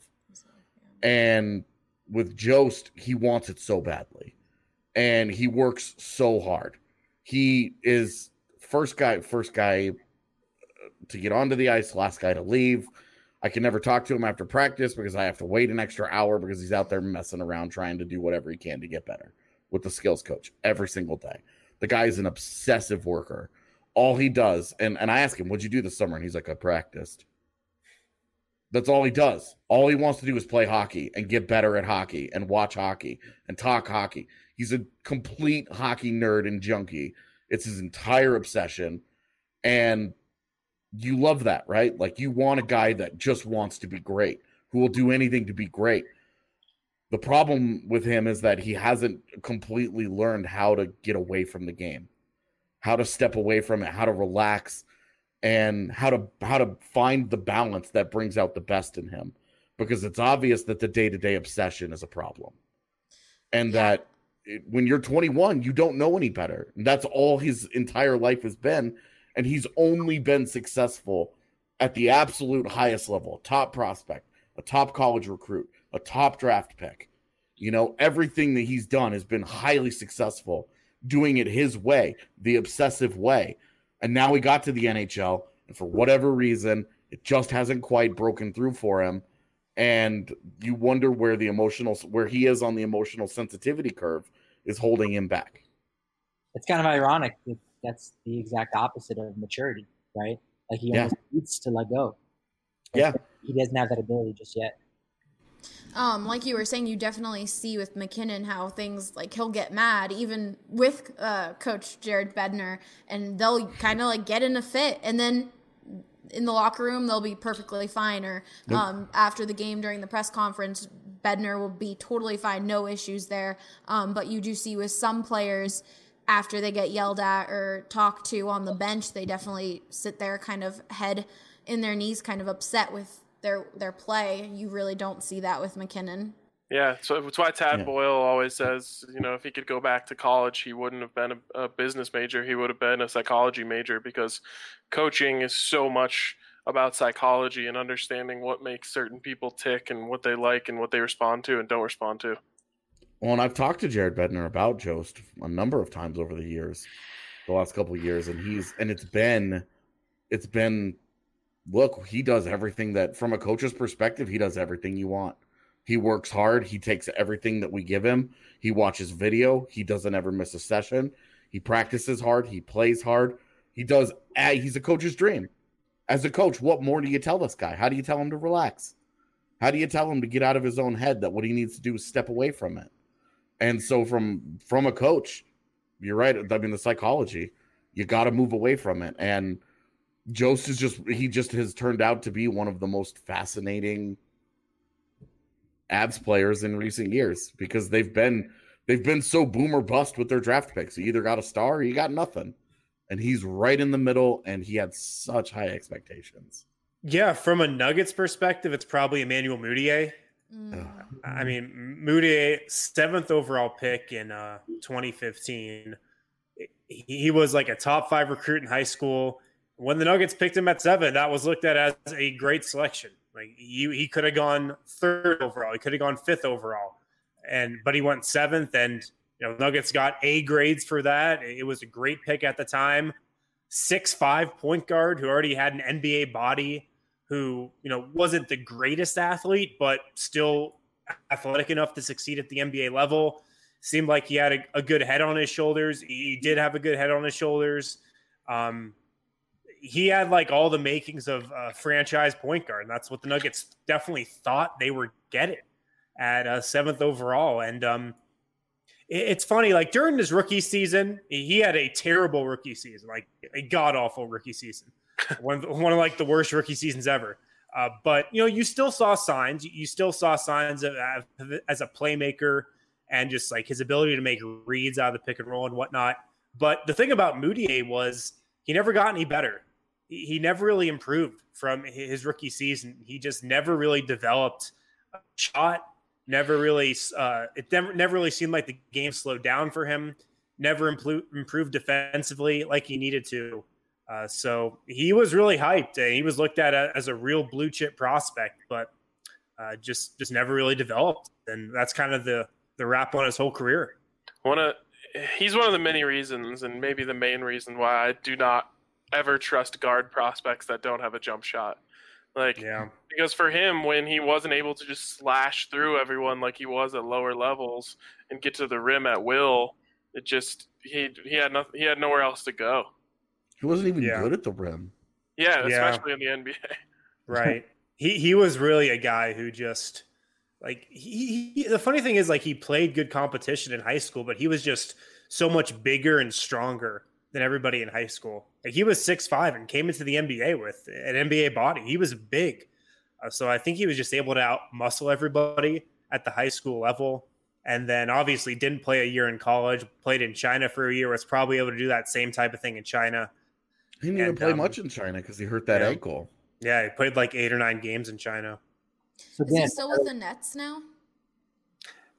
And with Jost, he wants it so badly. And he works so hard. He is first guy, first guy to get onto the ice, last guy to leave. I can never talk to him after practice because I have to wait an extra hour because he's out there messing around trying to do whatever he can to get better with the skills coach every single day. The guy is an obsessive worker. All he does, and, and I ask him, what'd you do this summer? And he's like, I practiced. That's all he does. All he wants to do is play hockey and get better at hockey and watch hockey and talk hockey. He's a complete hockey nerd and junkie. It's his entire obsession. And you love that, right? Like, you want a guy that just wants to be great, who will do anything to be great. The problem with him is that he hasn't completely learned how to get away from the game, how to step away from it, how to relax, and how to how to find the balance that brings out the best in him. Because it's obvious that the day-to-day obsession is a problem. And yeah. that it, when you're twenty-one, you don't know any better. And that's all his entire life has been. And he's only been successful at the absolute highest level, top prospect, a top college recruit, a top draft pick. You know, everything that he's done has been highly successful, doing it his way, the obsessive way. And now he got to the N H L, and for whatever reason, it just hasn't quite broken through for him. And you wonder where the emotional, where he is on the emotional sensitivity curve is holding him back. It's kind of ironic. That that's the exact opposite of maturity, right? Like he almost yeah. needs to let go. Like yeah. He doesn't have that ability just yet. Um, like you were saying, you definitely see with MacKinnon how things like he'll get mad even with uh, Coach Jared Bednar, and they'll kind of like get in a fit, and then in the locker room they'll be perfectly fine. Or Nope. um, after the game during the press conference, Bednar will be totally fine, no issues there. Um, but you do see with some players, after they get yelled at or talked to on the bench, they definitely sit there kind of head in their knees, kind of upset with their their play. You really don't see that with MacKinnon. Yeah, so that's why Tad Yeah. Boyle always says, you know, if he could go back to college, he wouldn't have been a, a business major. He would have been a psychology major, because coaching is so much about psychology and understanding what makes certain people tick and what they like and what they respond to and don't respond to. Well, and I've talked to Jared Bednar about Jost a number of times over the years, the last couple of years, and he's and it's been, it's been, look, he does everything that, from a coach's perspective, he does everything you want. He works hard. He takes everything that we give him. He watches video. He doesn't ever miss a session. He practices hard. He plays hard. He does. He's a coach's dream. As a coach, what more do you tell this guy? How do you tell him to relax? How do you tell him to get out of his own head, that what he needs to do is step away from it? And so from from a coach, you're right. I mean, the psychology, you got to move away from it. And Jost is just, he just has turned out to be one of the most fascinating Abs players in recent years, because they've been they've been so boom or bust with their draft picks. You either got a star or you got nothing. And he's right in the middle, and he had such high expectations. Yeah, from a Nuggets perspective, it's probably Emmanuel Mudiay. Mm. I mean, Mudiay, seventh overall pick in uh, twenty fifteen. He was like a top five recruit in high school. When the Nuggets picked him at seven, that was looked at as a great selection. Like he, he could have gone third overall. He could have gone fifth overall. And but he went seventh, and you know, Nuggets got A grades for that. It was a great pick at the time. six five point guard who already had an N B A body, who, you know, wasn't the greatest athlete, but still athletic enough to succeed at the N B A level. Seemed like he had a, a good head on his shoulders. He did have a good head on his shoulders. Um, he had like all the makings of a franchise point guard. And that's what the Nuggets definitely thought they were getting at uh, seventh overall. And um, it, it's funny, like during his rookie season, he had a terrible rookie season, like a god awful rookie season. one, one of like the worst rookie seasons ever. Uh, but, you know, you still saw signs. You still saw signs of, of as a playmaker and just like his ability to make reads out of the pick and roll and whatnot. But the thing about Mudiay was he never got any better. He, he never really improved from his rookie season. He just never really developed a shot. Never really, uh, it never, never really seemed like the game slowed down for him. Never improved, improved defensively like he needed to. Uh, so he was really hyped, and he was looked at as a real blue chip prospect, but uh, just just never really developed. And that's kind of the the wrap on his whole career. One of he's one of the many reasons, and maybe the main reason, why I do not ever trust guard prospects that don't have a jump shot. Like, yeah. Because for him, when he wasn't able to just slash through everyone like he was at lower levels and get to the rim at will, it just he he had nothing. He had nowhere else to go. He wasn't even Yeah. good at the rim. Yeah, Yeah. especially in the N B A. Right. he he was really a guy who just like he, he the funny thing is like he played good competition in high school, but he was just so much bigger and stronger than everybody in high school. Like he was six five and came into the N B A with an N B A body. He was big. Uh, so I think he was just able to out muscle everybody at the high school level. And then obviously didn't play a year in college, played in China for a year, was probably able to do that same type of thing in China. He didn't even And, play um, much in China because he hurt that yeah. ankle. Yeah, he played like eight or nine games in China. So Is he Dan, still with the Nets now?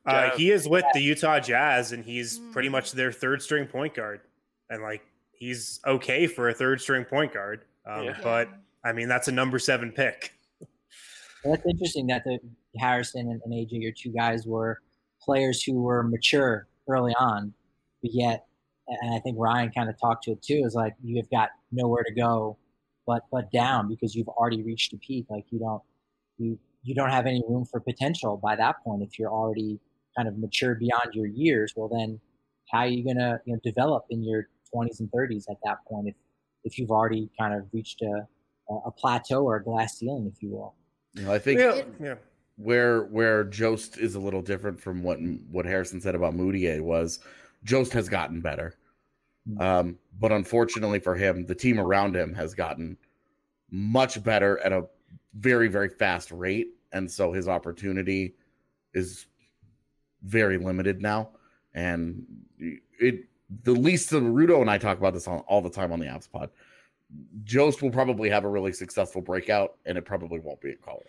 Uh, Jazz. he is with the Utah Jazz, and he's Mm. pretty much their third string point guard. And like, he's okay for a third string point guard. Um, Yeah. But I mean, that's a number seven pick. Well, that's interesting that the Harrison and, and A J, your two guys, were players who were mature early on, but yet, and I think Ryan kind of talked to it too, is like you've got nowhere to go but but down because you've already reached a peak. Like you don't you you don't have any room for potential by that point if you're already kind of mature beyond your years. Well, then how are you gonna you know develop in your twenties and thirties at that point if if you've already kind of reached a a plateau or a glass ceiling, if you will. You know, I think Yeah, yeah. where where Jost is a little different from what what Harrison said about Moutier was Jost has gotten better. Um, but unfortunately for him, the team around him has gotten much better at a very, very fast rate. And so his opportunity is very limited now. And it the least of Rudo and I talk about this on, all the time on the Apps Pod. Jost will probably have a really successful breakout, and it probably won't be in Colorado.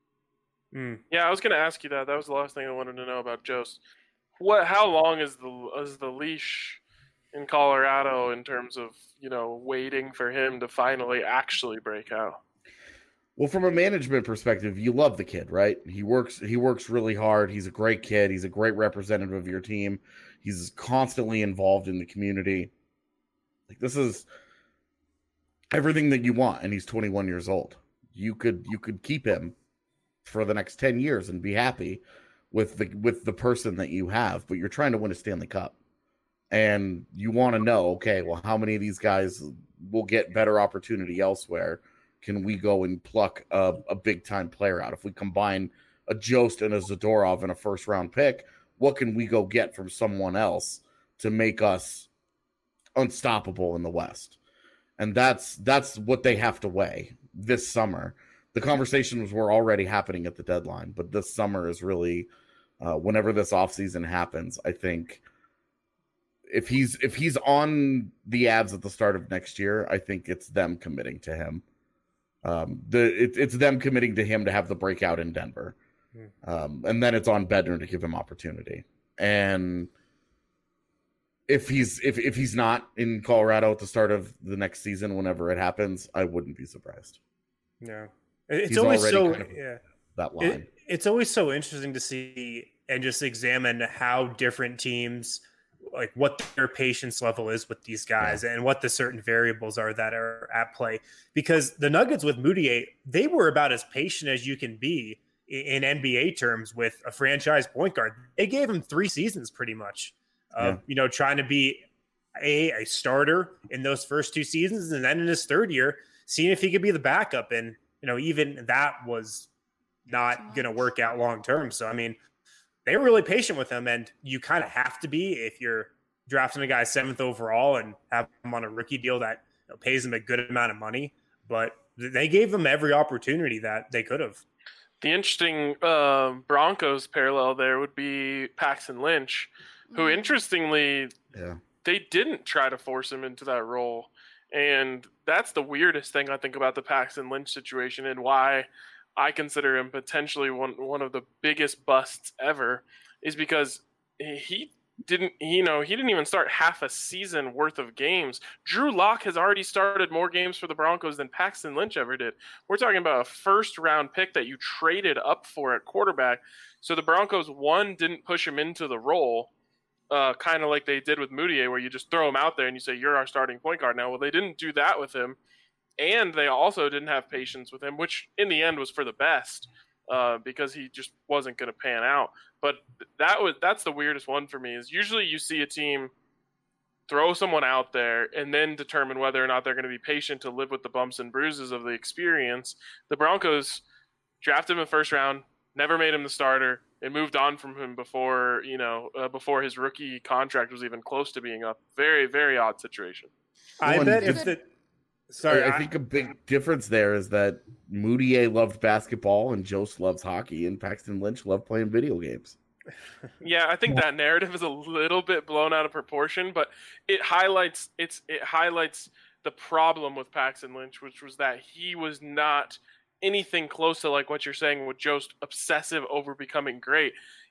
Mm. Yeah, I was going to ask you that. That was the last thing I wanted to know about Jost. What? How long is the is the leash in Colorado in terms of you know waiting for him to finally actually break out? Well, from a management perspective, you love the kid, right? He works he works really hard. He's a great kid. He's a great representative of your team. He's constantly involved in the community. Like this is everything that you want, and he's twenty-one years old. You could you could keep him for the next ten years and be happy with the with the person that you have, but you're trying to win a Stanley Cup. And you want to know, okay, well, how many of these guys will get better opportunity elsewhere? Can we go and pluck a, a big-time player out? If we combine a Jost and a Zadorov and a first-round pick, what can we go get from someone else to make us unstoppable in the West? And that's that's what they have to weigh this summer. The conversations were already happening at the deadline, but this summer is really, uh, whenever this offseason happens, I think if he's if he's on the Avs at the start of next year, I think it's them committing to him. Um, the it, it's them committing to him to have the breakout in Denver, um, and then it's on Bednar to give him opportunity. And if he's if if he's not in Colorado at the start of the next season, whenever it happens, I wouldn't be surprised. Yeah, it's He's always already so kind of yeah. that line. It, it's always so interesting to see and just examine how different teams, like what their patience level is with these guys yeah. and what the certain variables are that are at play. Because the Nuggets with Moutier, they were about as patient as you can be in N B A terms with a franchise point guard. They gave him three seasons pretty much of, yeah. you know, trying to be a, a starter in those first two seasons. And then in his third year, seeing if he could be the backup. And, you know, even that was not going to work out long term. So, I mean, they were really patient with him, and you kind of have to be if you're drafting a guy seventh overall and have him on a rookie deal that you know, pays him a good amount of money. But they gave him every opportunity that they could have. The interesting uh, Broncos parallel there would be Paxton Lynch, who interestingly, yeah. they didn't try to force him into that role. And that's the weirdest thing I think about the Paxton Lynch situation and why I consider him potentially one one of the biggest busts ever, is because he didn't, you know, he didn't even start half a season worth of games. Drew Lock has already started more games for the Broncos than Paxton Lynch ever did. We're talking about a first round pick that you traded up for at quarterback. So the Broncos, one, didn't push him into the role, uh, kind of like they did with Moutier, where you just throw him out there and you say, you're our starting point guard now. Well, they didn't do that with him. And they also didn't have patience with him, which in the end was for the best, uh, because he just wasn't going to pan out. But that was that's the weirdest one for me. Is usually you see a team throw someone out there and then determine whether or not they're going to be patient to live with the bumps and bruises of the experience. The Broncos drafted him in the first round, never made him the starter, and moved on from him before you know uh, before his rookie contract was even close to being up. Very very odd situation. I Well, bet and if the Sorry, I, I I- think a big difference there is that Moutier loved basketball and Jost loves hockey, and Paxton Lynch loved playing video games. Yeah, I think that narrative is a little bit blown out of proportion, but it highlights it's it highlights the problem with Paxton Lynch, which was that he was not anything close to like what you're saying with Jost obsessive over becoming great.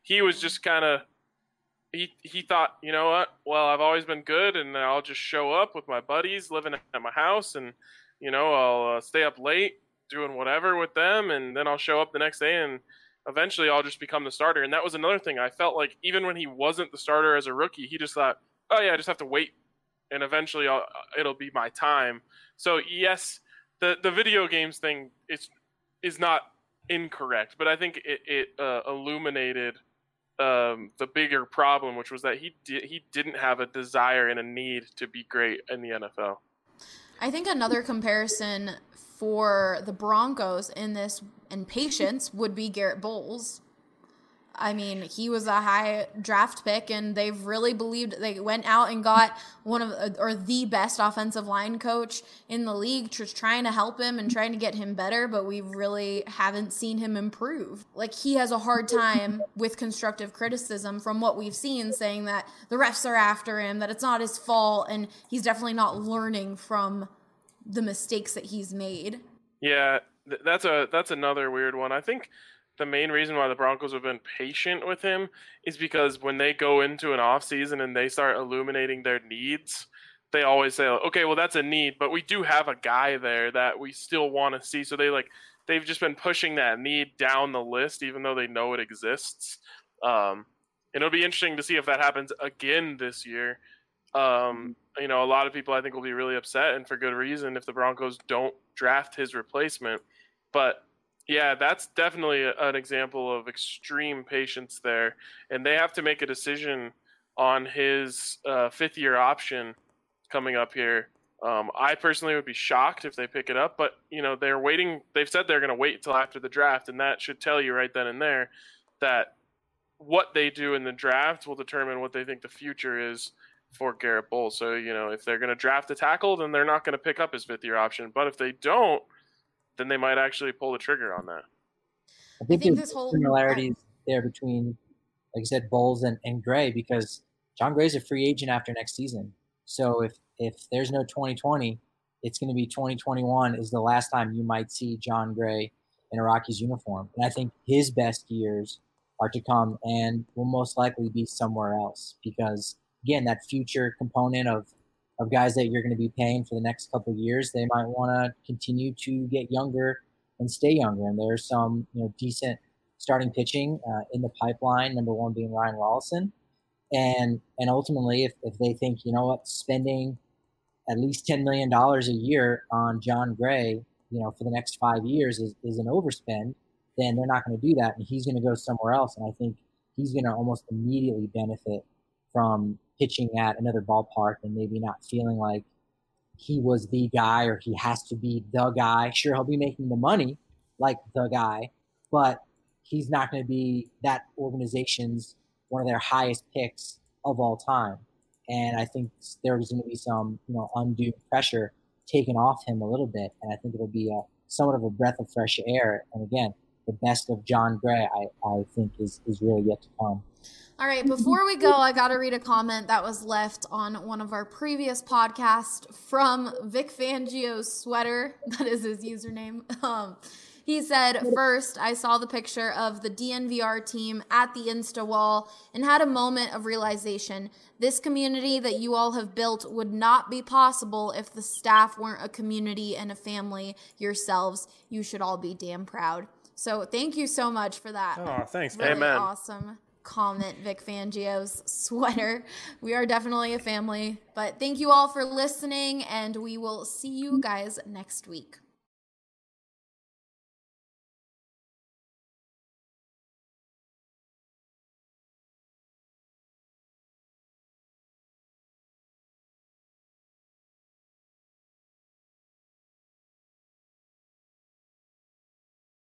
he was just kind of he he thought, you know what? Well, I've always been good, and I'll just show up with my buddies, living at my house, and you know, I'll uh, stay up late doing whatever with them, and then I'll show up the next day, and eventually I'll just become the starter. And that was another thing. I felt like even when he wasn't the starter as a rookie, he just thought, oh yeah, I just have to wait, and eventually I'll, it'll be my time. So yes, the the video games thing is is not incorrect, but I think it, it uh, illuminated um, the bigger problem, which was that he di- he didn't have a desire and a need to be great in the N F L. I think another comparison for the Broncos in this and patience would be Garrett Bowles. I mean, he was a high draft pick, and they've really believed they went out and got one of or the best offensive line coach in the league, just trying to help him and trying to get him better, but we really haven't seen him improve. Like, he has a hard time with constructive criticism from what we've seen, saying that the refs are after him, that it's not his fault, and he's definitely not learning from the mistakes that he's made. Yeah, th- that's a that's another weird one. I think the main reason why the Broncos have been patient with him is because when they go into an offseason and they start illuminating their needs, they always say, okay, well, that's a need, but we do have a guy there that we still want to see. So they like they've just been pushing that need down the list, even though they know it exists. Um, and it'll be interesting to see if that happens again this year. Um, you know, a lot of people I think will be really upset, and for good reason, if the Broncos don't draft his replacement. But yeah, that's definitely a, an example of extreme patience there. And they have to make a decision on his uh, fifth year option coming up here. Um, I personally would be shocked if they pick it up, but you know, they're waiting. They've said they're going to wait until after the draft. And that should tell you right then and there that what they do in the draft will determine what they think the future is for Garrett Bowles. So, you know, if they're going to draft a tackle, then they're not going to pick up his fifth year option. But if they don't, then they might actually pull the trigger on that. I think, I think there's this whole similarities there between, like I said, Bowles and, and Gray, because John Gray's a free agent after next season. So if if there's no twenty twenty, it's going to be twenty twenty-one is the last time you might see John Gray in a Rockies uniform. And I think his best years are to come and will most likely be somewhere else because, again, that future component of of guys that you're going to be paying for the next couple of years, they might want to continue to get younger and stay younger. And there's some, you know, decent starting pitching uh, in the pipeline, number one being Ryan Rollison. And and ultimately, if, if they think, you know what, spending at least ten million dollars a year on John Gray, you know, for the next five years is, is an overspend, then they're not going to do that. And he's going to go somewhere else. And I think he's going to almost immediately benefit from pitching at another ballpark and maybe not feeling like he was the guy or he has to be the guy. Sure, he'll be making the money like the guy, but he's not going to be that organization's one of their highest picks of all time. And I think there's going to be some, you know, undue pressure taken off him a little bit. And I think it'll be a somewhat of a breath of fresh air. And again, the best of John Gray, I, I think is, is really yet to come. All right, before we go, I got to read a comment that was left on one of our previous podcasts from Vic Fangio's sweater. That is his username. Um, he said, first, I saw the picture of the D N V R team at the Insta wall and had a moment of realization. This community that you all have built would not be possible if the staff weren't a community and a family yourselves. You should all be damn proud. So thank you so much for that. Oh, thanks, man. Really Amen. Awesome comment, Vic Fangio's sweater. We are definitely a family. But thank you all for listening, and we will see you guys next week.